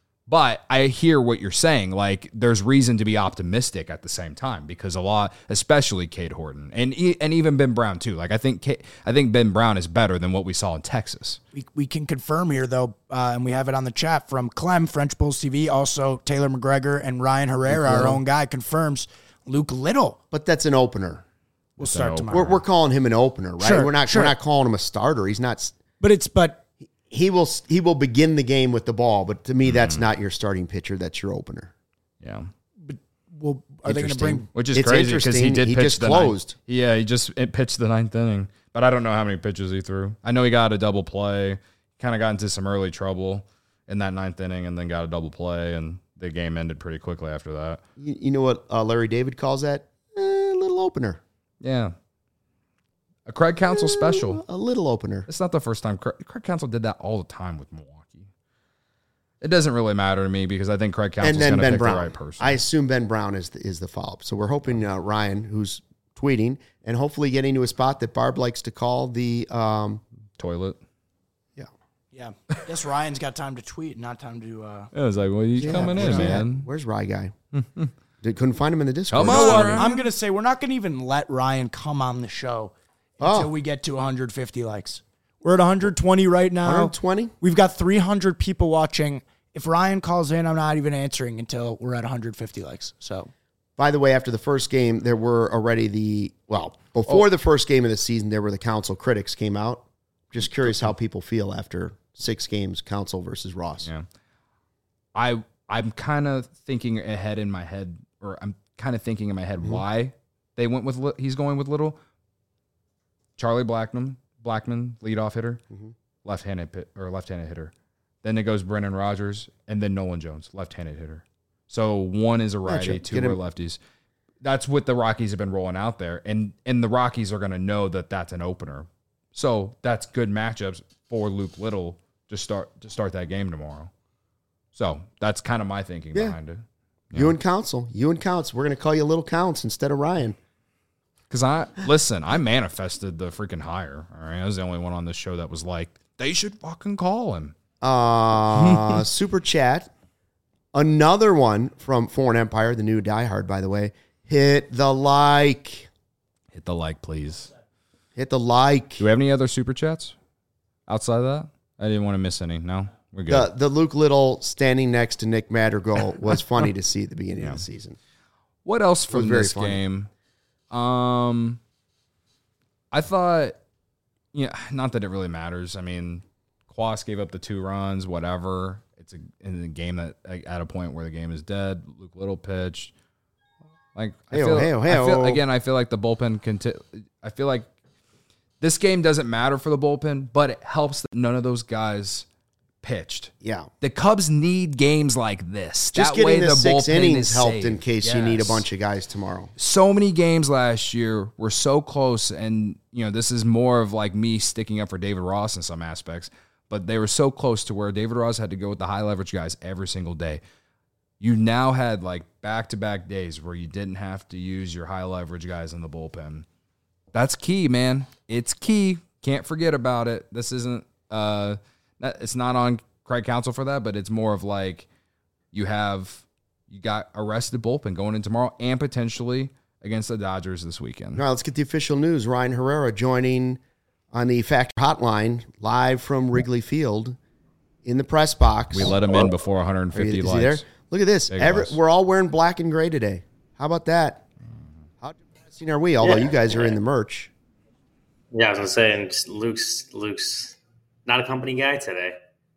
But I hear what you're saying. Like, there's reason to be optimistic at the same time because a lot, especially Cade Horton and e- and even Ben Brown too. Like, I think Cade, I think Ben Brown is better than what we saw in Texas. We, we can confirm here, though, uh, and we have it on the chat from Clem, French Bulls T V, also Taylor McGregor and Ryan Herrera, our own guy, confirms Luke Little But that's an opener. will start an tomorrow. We're, we're calling him an opener, right? Sure, we're not sure. we're not calling him a starter. He's not. But it's, but He will he will begin the game with the ball, but to me, that's not your starting pitcher. That's your opener. Yeah. well, are they going to bring, Which is It's crazy because he interesting. did He pitch just the closed. Ninth. Yeah, he just it pitched the ninth inning. But I don't know how many pitches he threw. I know he got a double play, kind of got into some early trouble in that ninth inning and then got a double play, and the game ended pretty quickly after that. You, you know what uh, Larry David calls that? Eh, a little opener. Yeah. A Craig Counsell special. A little opener. It's not the first time. Craig, Craig Counsell did that all the time with Milwaukee. It doesn't really matter to me because I think Craig Counsell's And then going to Ben pick Brown. the right person. I assume Ben Brown is the, is the follow-up. So we're hoping uh, Ryan, who's tweeting, and hopefully getting to a spot that Barb likes to call the um, Toilet. yeah. yeah, I guess Ryan's got time to tweet, not time to, uh, It was like, well, he's Yeah, coming in, where's he man. at? Where's Rye Guy? Did, couldn't find him in the Discord. Come You know on, what? Ryan. I'm going to say we're not going to even let Ryan come on the show until Oh. we get to one hundred fifty likes. We're at one hundred twenty right now. one hundred twenty? We've got three hundred people watching. If Ryan calls in, I'm not even answering until we're at one hundred fifty likes. So, By the way, after the first game, there were already the, well, before the first game of the season, there were the Council critics came out. Just curious how people feel after six games, Council versus Ross. Yeah. I I'm kind of thinking ahead in my head, or I'm kind of thinking in my head Mm-hmm. why they went with Li- he's going with Little. Charlie Blackman, Blackman, leadoff hitter, Mm-hmm. left-handed pit, or left-handed hitter. Then it goes Brennan Rodgers, and then Nolan Jones, left-handed hitter. So one is a righty, Matchup. two Get are him- lefties. That's what the Rockies have been rolling out there, and and the Rockies are going to know that that's an opener. So that's good matchups for Luke Little to start to start that game tomorrow. So that's kind of my thinking Yeah. behind it. You and Council. You and Counts. We're going to call you Little Counts instead of Ryan. Because I listen, I manifested the freaking hire. All right, I was the only one on this show that was like, they should fucking call him. Uh, super chat. Another one from Foreign Empire, the new diehard, by the way. Hit the like. Hit the like, please. Hit the like. Do we have any other super chats outside of that? I didn't want to miss any. No, we're good. The, the Luke Little standing next to Nick Madrigal was funny to see at the beginning of the season. What else from very this funny. game? Um, I thought, yeah, not that it really matters. I mean, Quas gave up the two runs, whatever. It's it's a, in a game that at a point where the game is dead. Luke Little pitched. Like I Hey-o, feel, hey-o, I feel hey-o. again, I feel like the bullpen can. T- I feel like this game doesn't matter for the bullpen, but it helps that none of those guys pitched. Yeah. The Cubs need games like this. Just that way getting the, the six bullpen innings is helped safe. in case Yes. you need a bunch of guys tomorrow. So many games last year were so close, and you know this is more of like me sticking up for David Ross in some aspects, but they were so close to where David Ross had to go with the high leverage guys every single day. You now had like back-to-back days where you didn't have to use your high leverage guys in the bullpen. That's key, man. It's key. Can't forget about it. This isn't uh it's not on Craig Counsell for that, but it's more of like you have you got a rested bullpen going in tomorrow and potentially against the Dodgers this weekend. All right, let's get the official news. Ryan Herrera joining on the Factor Hotline live from Wrigley Field in the press box. We let him in before one hundred fifty Is he likes. there? Look at this. Big Every, bus. we're all wearing black and gray today. How about that? How depressing are we? Although Yeah. you guys are in the merch. Yeah, I was gonna say, and just Luke's Luke's not a company guy today.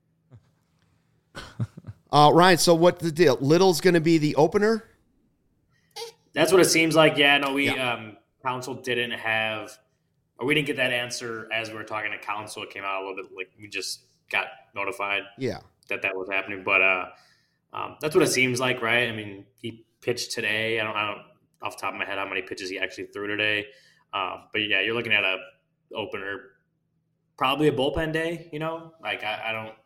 Uh, Ryan, so what's the deal? Little's going to be the opener? That's what it seems like. Yeah, no, we Yeah. um council didn't have, or we didn't get that answer as we were talking to council. It came out a little bit like we just got notified Yeah. that that was happening, but uh, um, that's what it seems like, right? I mean, he pitched today. I don't, I don't off the top of my head how many pitches he actually threw today, um, but yeah, you're looking at a opener, probably a bullpen day. You know, like I, I don't.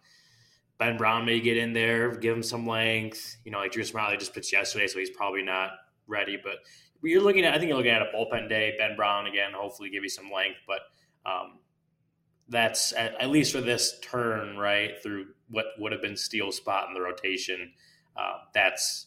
Ben Brown may get in there, give him some length. You know, like Drew Smiley just pitched yesterday, so he's probably not ready. But you're looking at, I think you're looking at a bullpen day. Ben Brown again, hopefully give you some length. But um, that's at, at least for this turn, right through what would have been Steele's spot in the rotation. Uh, that's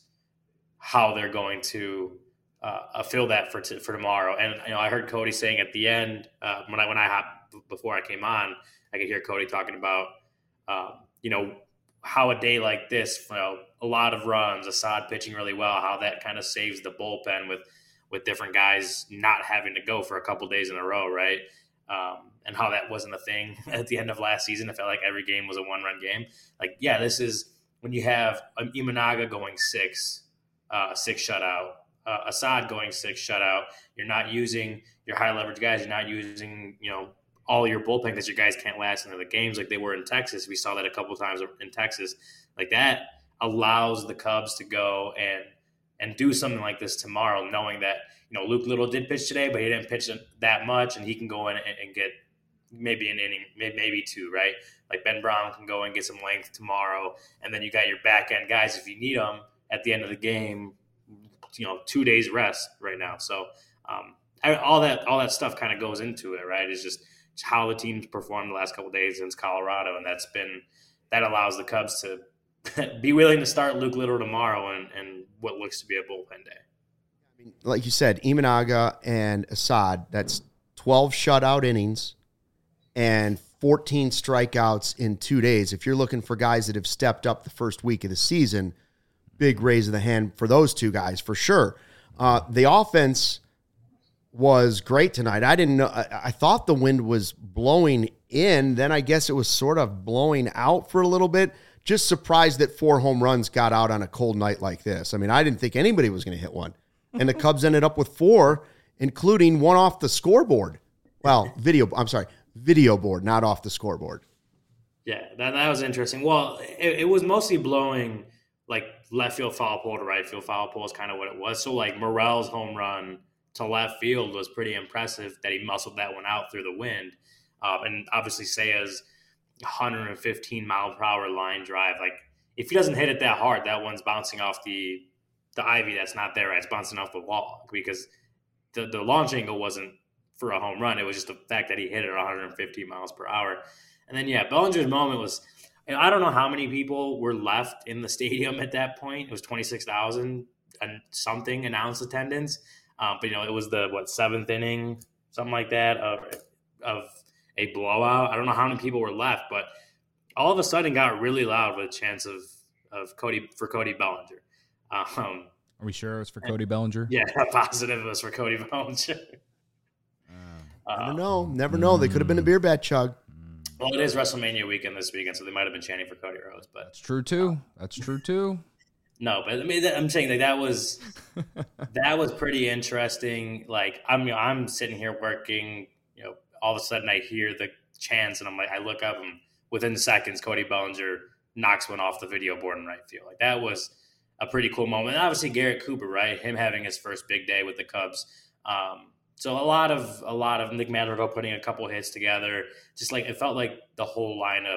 how they're going to uh, fill that for t- for tomorrow. And you know, I heard Cody saying at the end uh, when I when I hopped before I came on, I could hear Cody talking about. Um, you know, how a day like this, you know, a lot of runs, Assad pitching really well, how that kind of saves the bullpen with, with different guys not having to go for a couple days in a row, right? Um, and how that wasn't a thing at the end of last season. It felt like every game was a one-run game. Like, yeah, this is when you have um, Imanaga going six, uh, six shutout, uh, Assad going six shutout. You're not using your high-leverage guys. You're not using, you know, all your bullpen because your guys can't last into the games like they were in Texas. We saw that a couple of times in Texas. Like that allows the Cubs to go and and do something like this tomorrow, knowing that, you know, Luke Little did pitch today, but he didn't pitch that much, and he can go in and, and get maybe an inning, maybe two, right? Like Ben Brown can go and get some length tomorrow, and then you got your back end guys if you need them at the end of the game. You know, two days rest right now, so um, I, all that all that stuff kind of goes into it, right? It's just how the team's performed the last couple of days against Colorado, and that's been that allows the Cubs to be willing to start Luke Little tomorrow and, and what looks to be a bullpen day. I mean, like you said, Imanaga and Assad, that's twelve shutout innings and fourteen strikeouts in two days. If you're looking for guys that have stepped up the first week of the season, big raise of the hand for those two guys for sure. Uh, the offense was great tonight. I didn't know. I, I thought the wind was blowing in. Then I guess it was sort of blowing out for a little bit. Just surprised that four home runs got out on a cold night like this. I mean, I didn't think anybody was going to hit one. And the Cubs ended up with four, including one off the scoreboard. Well, video, I'm sorry, video board, not off the scoreboard. Yeah, that, that was interesting. Well, it, it was mostly blowing like left field foul pole to right field foul pole is kind of what it was. So like Morel's home run to left field was pretty impressive that he muscled that one out through the wind. Uh, and obviously Saya's one hundred fifteen mile per hour line drive. Like if he doesn't hit it that hard, that one's bouncing off the the ivy that's not there. Right? It's bouncing off the wall because the, the launch angle wasn't for a home run. It was just the fact that he hit it at one hundred fifty miles per hour. And then, yeah, Bellinger's moment was, and I don't know how many people were left in the stadium at that point. It was twenty-six thousand and something announced attendance. Um, but, you know, it was the, what, seventh inning, something like that, of, of a blowout. I don't know how many people were left, but all of a sudden got really loud with a chance of, of Cody for Cody Bellinger. Um, Are we sure it was for Cody Bellinger? yeah, positive it was for Cody Bellinger. Never know. Never know. They could have been a beer bat chug. Well, it is WrestleMania weekend this weekend, so they might have been chanting for Cody Rhodes. But That's true too. That's true too. No, but I mean, I'm saying like that was that was pretty interesting. Like I'm, you know, I'm sitting here working. You know, all of a sudden I hear the chants, and I'm like, I look up, and within seconds, Cody Bellinger knocks one off the video board in right field. Like that was a pretty cool moment. And obviously, Garrett Cooper, right? Him having his first big day with the Cubs. Um, so a lot of a lot of Nick Madrigal putting a couple hits together. Just like it felt like the whole lineup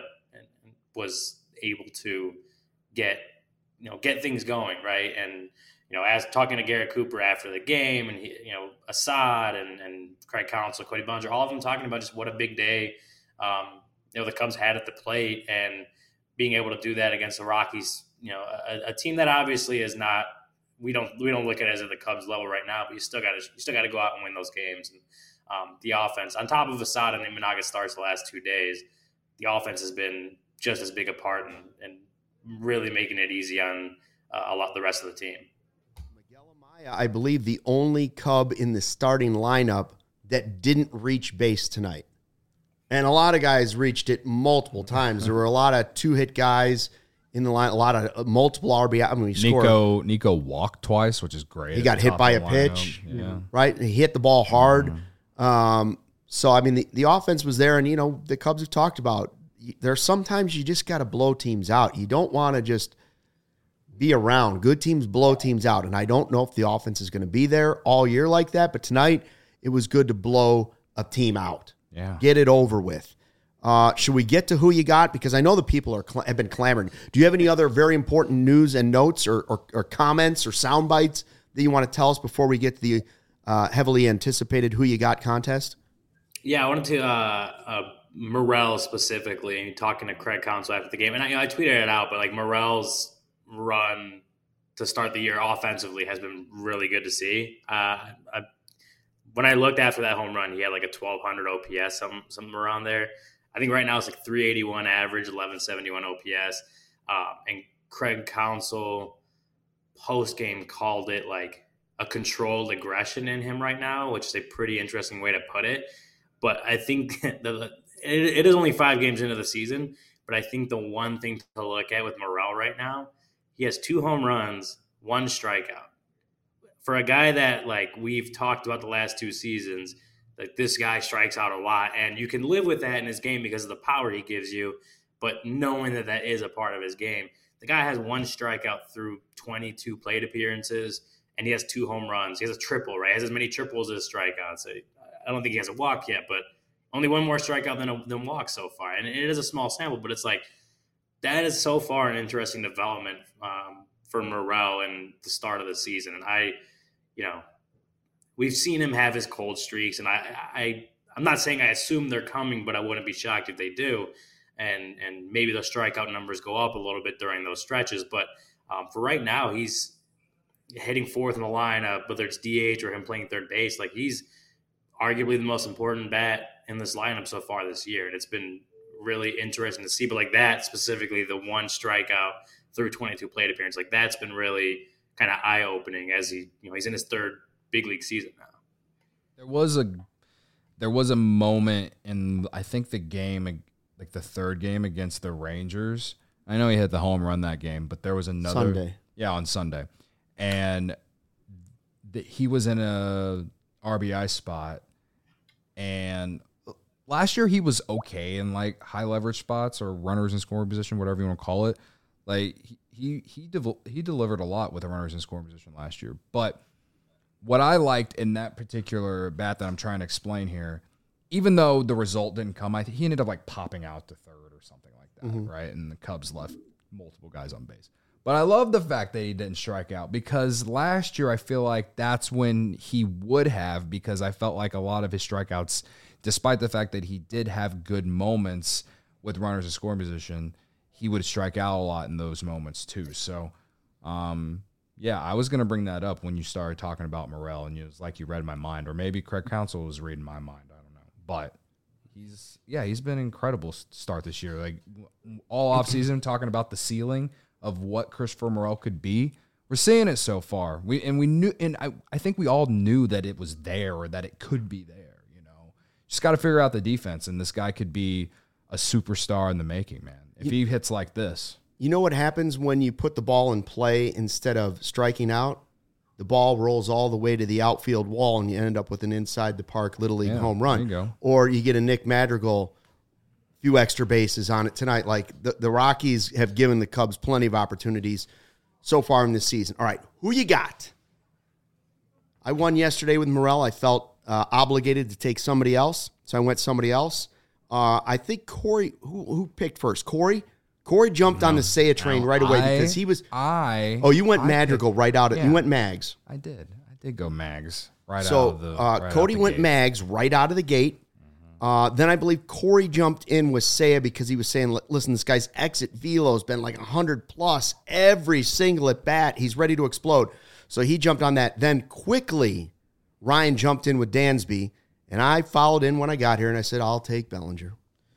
was able to get. You know, get things going, right? And, you know, as talking to Garrett Cooper after the game and, he, you know, Assad and, and Craig Counsell, Cody Bellinger, all of them talking about just what a big day, um, you know, the Cubs had at the plate and being able to do that against the Rockies, you know, a, a team that obviously is not, we don't, we don't look at it as at the Cubs level right now, but you still got to, you still got to go out and win those games. And um, the offense on top of Assad and Imanaga starts the last two days, the offense has been just as big a part and, and really making it easy on uh, a lot the rest of the team. Miguel Amaya, I believe the only Cub in the starting lineup that didn't reach base tonight. And a lot of guys reached it multiple times. There were a lot of two-hit guys in the line, a lot of uh, multiple R B I. I mean, he Nico scored. Nico walked twice, which is great. He got hit by a pitch, yeah. right? He hit the ball hard. Mm-hmm. Um, so, I mean, the, the offense was there, and, you know, the Cubs have talked about there's sometimes you just got to blow teams out. You don't want to just be around. Good teams blow teams out, and I don't know if the offense is going to be there all year like that, but tonight it was good to blow a team out. Yeah. Get it over with. Uh, should we get to who you got? Because I know the people are cl- have been clamoring. Do you have any other very important news and notes or, or, or comments or sound bites that you want to tell us before we get to the uh, heavily anticipated Who You Got contest? Yeah, I wanted to uh, uh, Morel specifically, talking to Craig Counsell after the game, and I, you know, I tweeted it out, but like Morel's run to start the year offensively has been really good to see. Uh, I, when I looked after that home run, he had like a twelve hundred O P S, some something around there. I think right now it's like three eighty-one average, eleven seventy-one O P S. Um, and Craig Counsell post game called it like a controlled aggression in him right now, which is a pretty interesting way to put it. But I think the it, it is only five games into the season, but I think the one thing to look at with Morel right now, he has two home runs, one strikeout. For a guy that, like, we've talked about the last two seasons, like, this guy strikes out a lot, and you can live with that in his game because of the power he gives you, but knowing that that is a part of his game. The guy has one strikeout through twenty-two plate appearances, and he has two home runs. He has a triple, right? He has as many triples as strikeouts. So I don't think he has a walk yet, but only one more strikeout than a than walk so far. And it is a small sample, but it's like that is so far an interesting development um, for Morel in the start of the season. And I, you know, we've seen him have his cold streaks, and I, I, I'm not saying I assume they're coming, but I wouldn't be shocked if they do. And and maybe the strikeout numbers go up a little bit during those stretches. But um, for right now, he's hitting fourth in the lineup, whether it's D H or him playing third base. Like, he's arguably the most important bat in this lineup so far this year. And it's been really interesting to see. But like that, specifically the one strikeout through twenty-two plate appearance, like that's been really kind of eye-opening as he, you know, he's in his third big league season now. There was a there was a moment in, I think, the game, like the third game against the Rangers. I know he hit the home run that game, but there was another Sunday. Yeah, on Sunday. And the, he was in a R B I spot, and last year he was okay in like high leverage spots or runners in scoring position, whatever you want to call it. Like he he he, dev- he delivered a lot with the runners in scoring position last year. But what I liked in that particular bat that I'm trying to explain here, even though the result didn't come, I think he ended up like popping out to third or something like that, mm-hmm. right? And the Cubs left multiple guys on base. But I love the fact that he didn't strike out, because last year I feel like that's when he would have, because I felt like a lot of his strikeouts, despite the fact that he did have good moments with runners in scoring position, he would strike out a lot in those moments too. So, um, yeah, I was going to bring that up when you started talking about Morel, and it was like you read my mind, or maybe Craig Counsell was reading my mind. I don't know. But he's, yeah, he's been an incredible start this year. Like all offseason talking about the ceiling of what Christopher Morel could be. We're seeing it so far. We and we knew, and I, I think we all knew that it was there, or that it could be there. You know, just got to figure out the defense, and this guy could be a a superstar in the making, man. If he hits like this. You know what happens when you put the ball in play instead of striking out? The ball rolls all the way to the outfield wall, and you end up with an inside the park Little League Yeah, home run. there you go. Or you get a Nick Madrigal, few extra bases on it tonight. Like the, the Rockies have given the Cubs plenty of opportunities so far in this season. All right, who you got? I won yesterday with Morel. I felt uh, obligated to take somebody else, so I went somebody else. Uh, I think Corey, who, who picked first? Corey? Corey jumped no, on the Seiya train no, right away I, because he was. I. Oh, you went I Madrigal picked, right out of. yeah, you went Mags. I did. I did go Mags right so, out of the. So uh, right Cody the went gate. Mags right out of the gate. Mm-hmm. Uh, then I believe Corey jumped in with Seiya because he was saying, "Listen, this guy's exit velo has been like a hundred plus every single at bat. He's ready to explode." So he jumped on that. Then quickly, Ryan jumped in with Dansby, and I followed in when I got here, and I said, "I'll take Bellinger."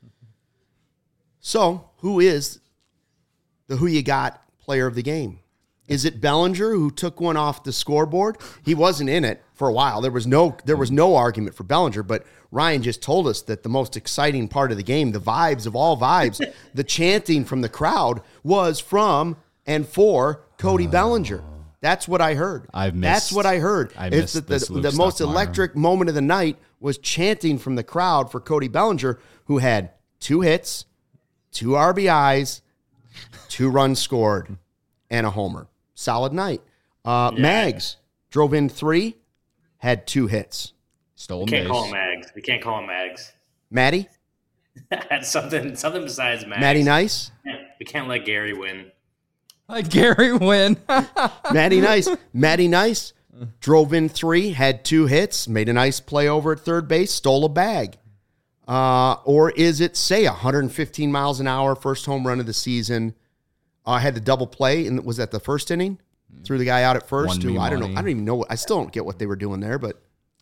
So, who is the who you got player of the game? Is it Bellinger who took one off the scoreboard? He wasn't in it for a while. There was no there was no argument for Bellinger, but Ryan just told us that the most exciting part of the game, the vibes of all vibes, the chanting from the crowd was from and for Cody oh. Bellinger. That's what I heard. I've missed. That's what I heard. I it's missed the, the, the most electric moment of the night was chanting from the crowd for Cody Bellinger, who had two hits, two R B Is, two runs scored, and a homer. Solid night. Uh, yeah. Mags drove in three, had two hits. Stolen we can't base. call him Mags. We can't call him Mags. Matty? something something besides Mags. Matty Nice? We can't let Gary win. Let Gary win. Matty Nice. Matty Nice drove in three, had two hits, made a nice play over at third base, stole a bag. Uh, or is it, say, one hundred fifteen miles an hour, first home run of the season? I uh, had the double play, and was that the first inning? Threw the guy out at first. Who, I don't know. I don't even know. What, I still don't get what they were doing there, but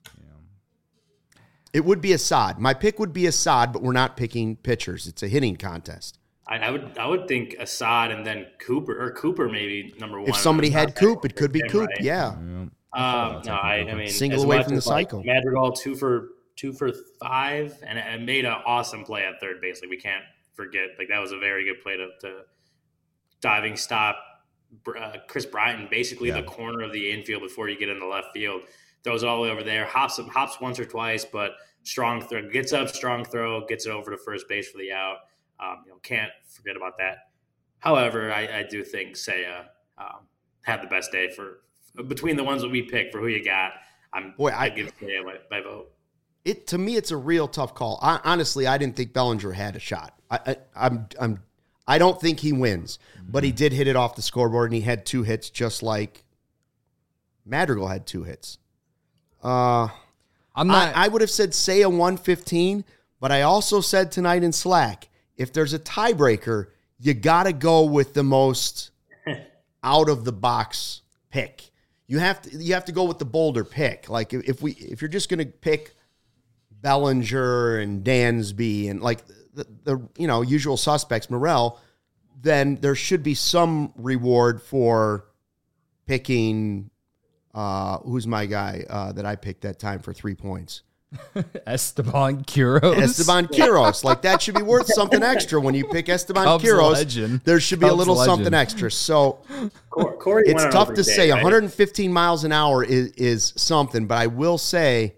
yeah. It would be Assad. My pick would be Assad, but we're not picking pitchers. It's a hitting contest. I, I would I would think Assad and then Cooper, or Cooper maybe number one. If somebody had Coop, it could be Coop, right? yeah. yeah. Um, no, I, I mean, single away from the cycle. Like Madrigal, two for two for five, and, and made an awesome play at third base. Like, we can't forget, like, that was a very good play to, to diving stop uh, Chris Bryant, basically yeah. the corner of the infield before you get in the left field. Throws it all the way over there. Hops hops once or twice, but strong throw. Gets up, strong throw, gets it over to first base for the out. Um, you know, can't forget about that. However, I, I do think Seiya um, had the best day for between the ones that we picked for who you got. I'm Boy, I give Seiya my, my vote. It to me, it's a real tough call. I, honestly, I didn't think Bellinger had a shot. I, I, I'm, I'm, I don't think he wins, but he did hit it off the scoreboard, and he had two hits, just like Madrigal had two hits. Uh, I'm not. I, I would have said Seiya one fifteen, but I also said tonight in Slack, if there's a tiebreaker, you got to go with the most out of the box pick. You have to. You have to go with the bolder pick. Like if we, if you're just going to pick Bellinger and Dansby and like the, the you know usual suspects, Morel, then there should be some reward for picking. Uh, who's my guy uh, that I picked that time for three points? Esteban Quiroz. Esteban Quiroz. Like, that should be worth something extra when you pick Esteban Cubs Quiroz. Legend. There should be Cubs a little legend. something extra. So Corey it's tough to day, say. right? one hundred fifteen miles an hour is, is something, but I will say,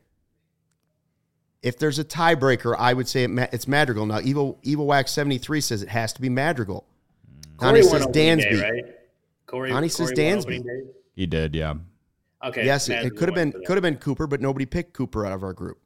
if there's a tiebreaker, I would say it, it's Madrigal. Now, Evil Evil Wax seventy-three says it has to be Madrigal. Connie says Dansby. Day, right? Corey, Connie Corey says Dansby. He did, yeah. Okay. Yes, it, it could have been could have been Cooper, but nobody picked Cooper out of our group.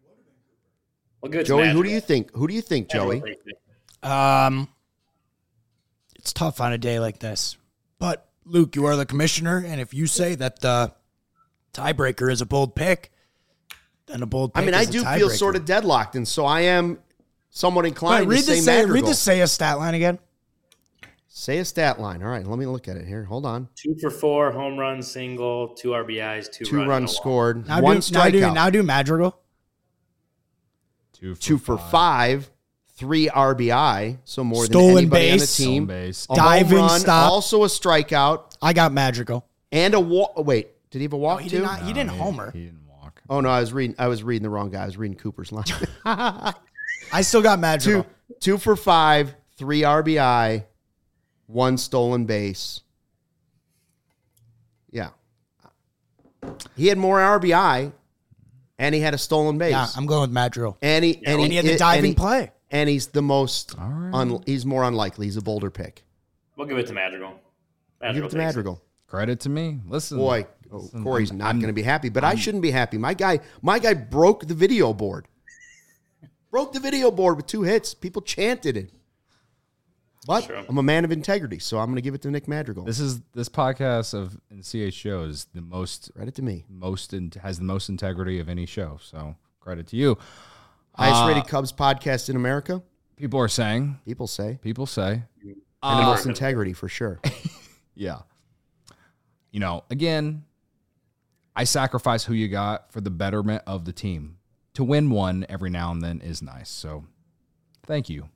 Well, good. Joey, who do you think? Who do you think, Joey? Um, it's tough on a day like this. But Luke, you are the commissioner, and if you say that the tiebreaker is a bold pick, then a bold pick. I mean, I is a do tiebreaker. feel sort of deadlocked, and so I am somewhat inclined Wait, read to say the say, Madrigal. read the say a stat line again. Say a stat line. All right, let me look at it here. Hold on. Two for four, home run, single, two R B Is, two, two runs, runs no scored, Now one do, now do, strikeout. now do Madrigal. Two for, Two for five. five, three R B I, so more Stolen than anybody base. on the Stolen team. base. A Diving home run, stop. also a strikeout, I got Madrigal. and a walk. Wait, did he have a walk Oh, he too? did not. He No, didn't homer. He didn't walk. Oh no, I was reading. I was reading the wrong guy. I was reading Cooper's line. I still got Madrigal. two, Two for five, three R B I, one stolen base. Yeah. He had more R B I, and he had a stolen base. Yeah, I'm going with Matt Drill. And he, and And he had the diving and he, play. And he's the most, All right. un, he's more unlikely. He's a bolder pick. We'll give it to Madrigal. Madrigal Give it to takes Madrigal. Credit to me. Listen, Boy, oh, listen, Corey's I'm- not I'm- going to be happy, but I shouldn't be happy. My guy, my guy broke the video board. broke the video board with two hits. People chanted it. But True. I'm a man of integrity, so I'm going to give it to Nick Madrigal. This is this podcast of in C H G O is the most Credit to me. most in, has the most integrity of any show. So credit to you. Highest Uh, rated Cubs podcast in America, People are saying. people say. People say. And the Uh, most integrity, for sure. Yeah. You know, again, I sacrifice who you got for the betterment of the team. To win one every now and then is nice. So, thank you.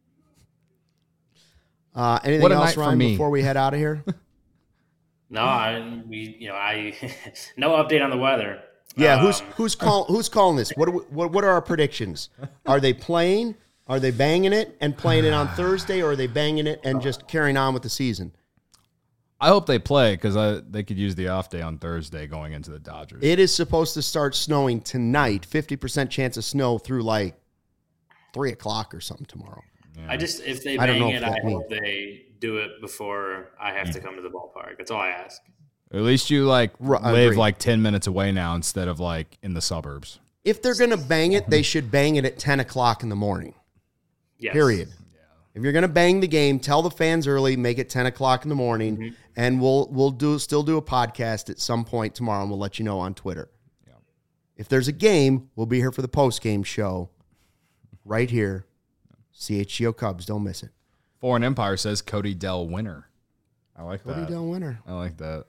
Uh, anything What a else, night for Ryan, me. before we head out of here? No, I we you know I no update on the weather. Yeah, Um, who's who's call, who's calling this? What, are we, what what are our predictions? Are they playing? Are they banging it and playing it on Thursday, or are they banging it and just carrying on with the season? I hope they play because they could use the off day on Thursday going into the Dodgers. It is supposed to start snowing tonight. Fifty percent chance of snow through like three o'clock or something tomorrow. I just if they I don't bang know it, if I that hope they do it before I have to come to the ballpark. That's all I ask. At least you like Right, I live agree. like ten minutes away now instead of like in the suburbs. If they're gonna bang it, they should bang it at ten o'clock in the morning. Yes. Period. If you're gonna bang the game, tell the fans early, make it ten o'clock in the morning, Mm-hmm. and we'll we'll do still do a podcast at some point tomorrow, and we'll let you know on Twitter. If there's a game, we'll be here for the post game show, right here. C H G O Cubs, don't miss it. Foreign Empire says Cody Dell winner. I like Cody that. Del winner. I like that.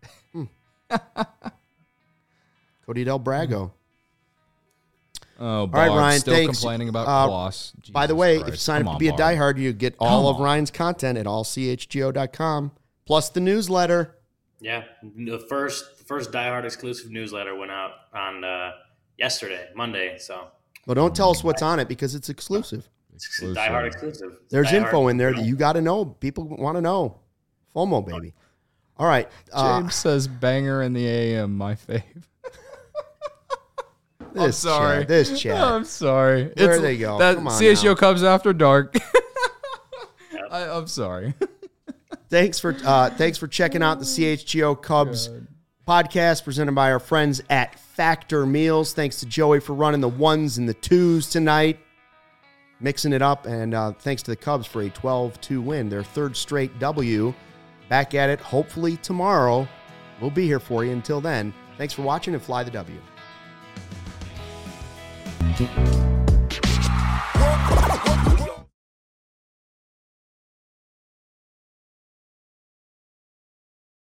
Cody Del Brago. Oh, right, Barb, Ryan, still thanks. complaining about Uh, Kloss. By the Jesus way, if Christ. you sign Come up to on, be a Barb. diehard, you get all Come of on. Ryan's content at all c h g o dot com, plus the newsletter. Yeah, the first the first Die Hard exclusive newsletter went out on uh, yesterday, Monday. So But don't tell us what's on it because it's exclusive. it's Die Hard exclusive. It's There's Die info Hard. in there that you got to know. People want to know. FOMO, baby. All right. Uh, James says banger in the A M, my fave. this I'm sorry. Chat, this chat. I'm sorry. There they go. That Come on C H G O now. Cubs After Dark. I, I'm sorry. Thanks for uh, thanks for checking out the C H G O Cubs podcast presented by our friends at Factor Meals. Thanks to Joey for running the ones and the twos tonight, mixing it up, and uh, thanks to the Cubs for a twelve two win, their third straight W. Back at it hopefully tomorrow. We'll be here for you. Until then, thanks for watching and fly the W.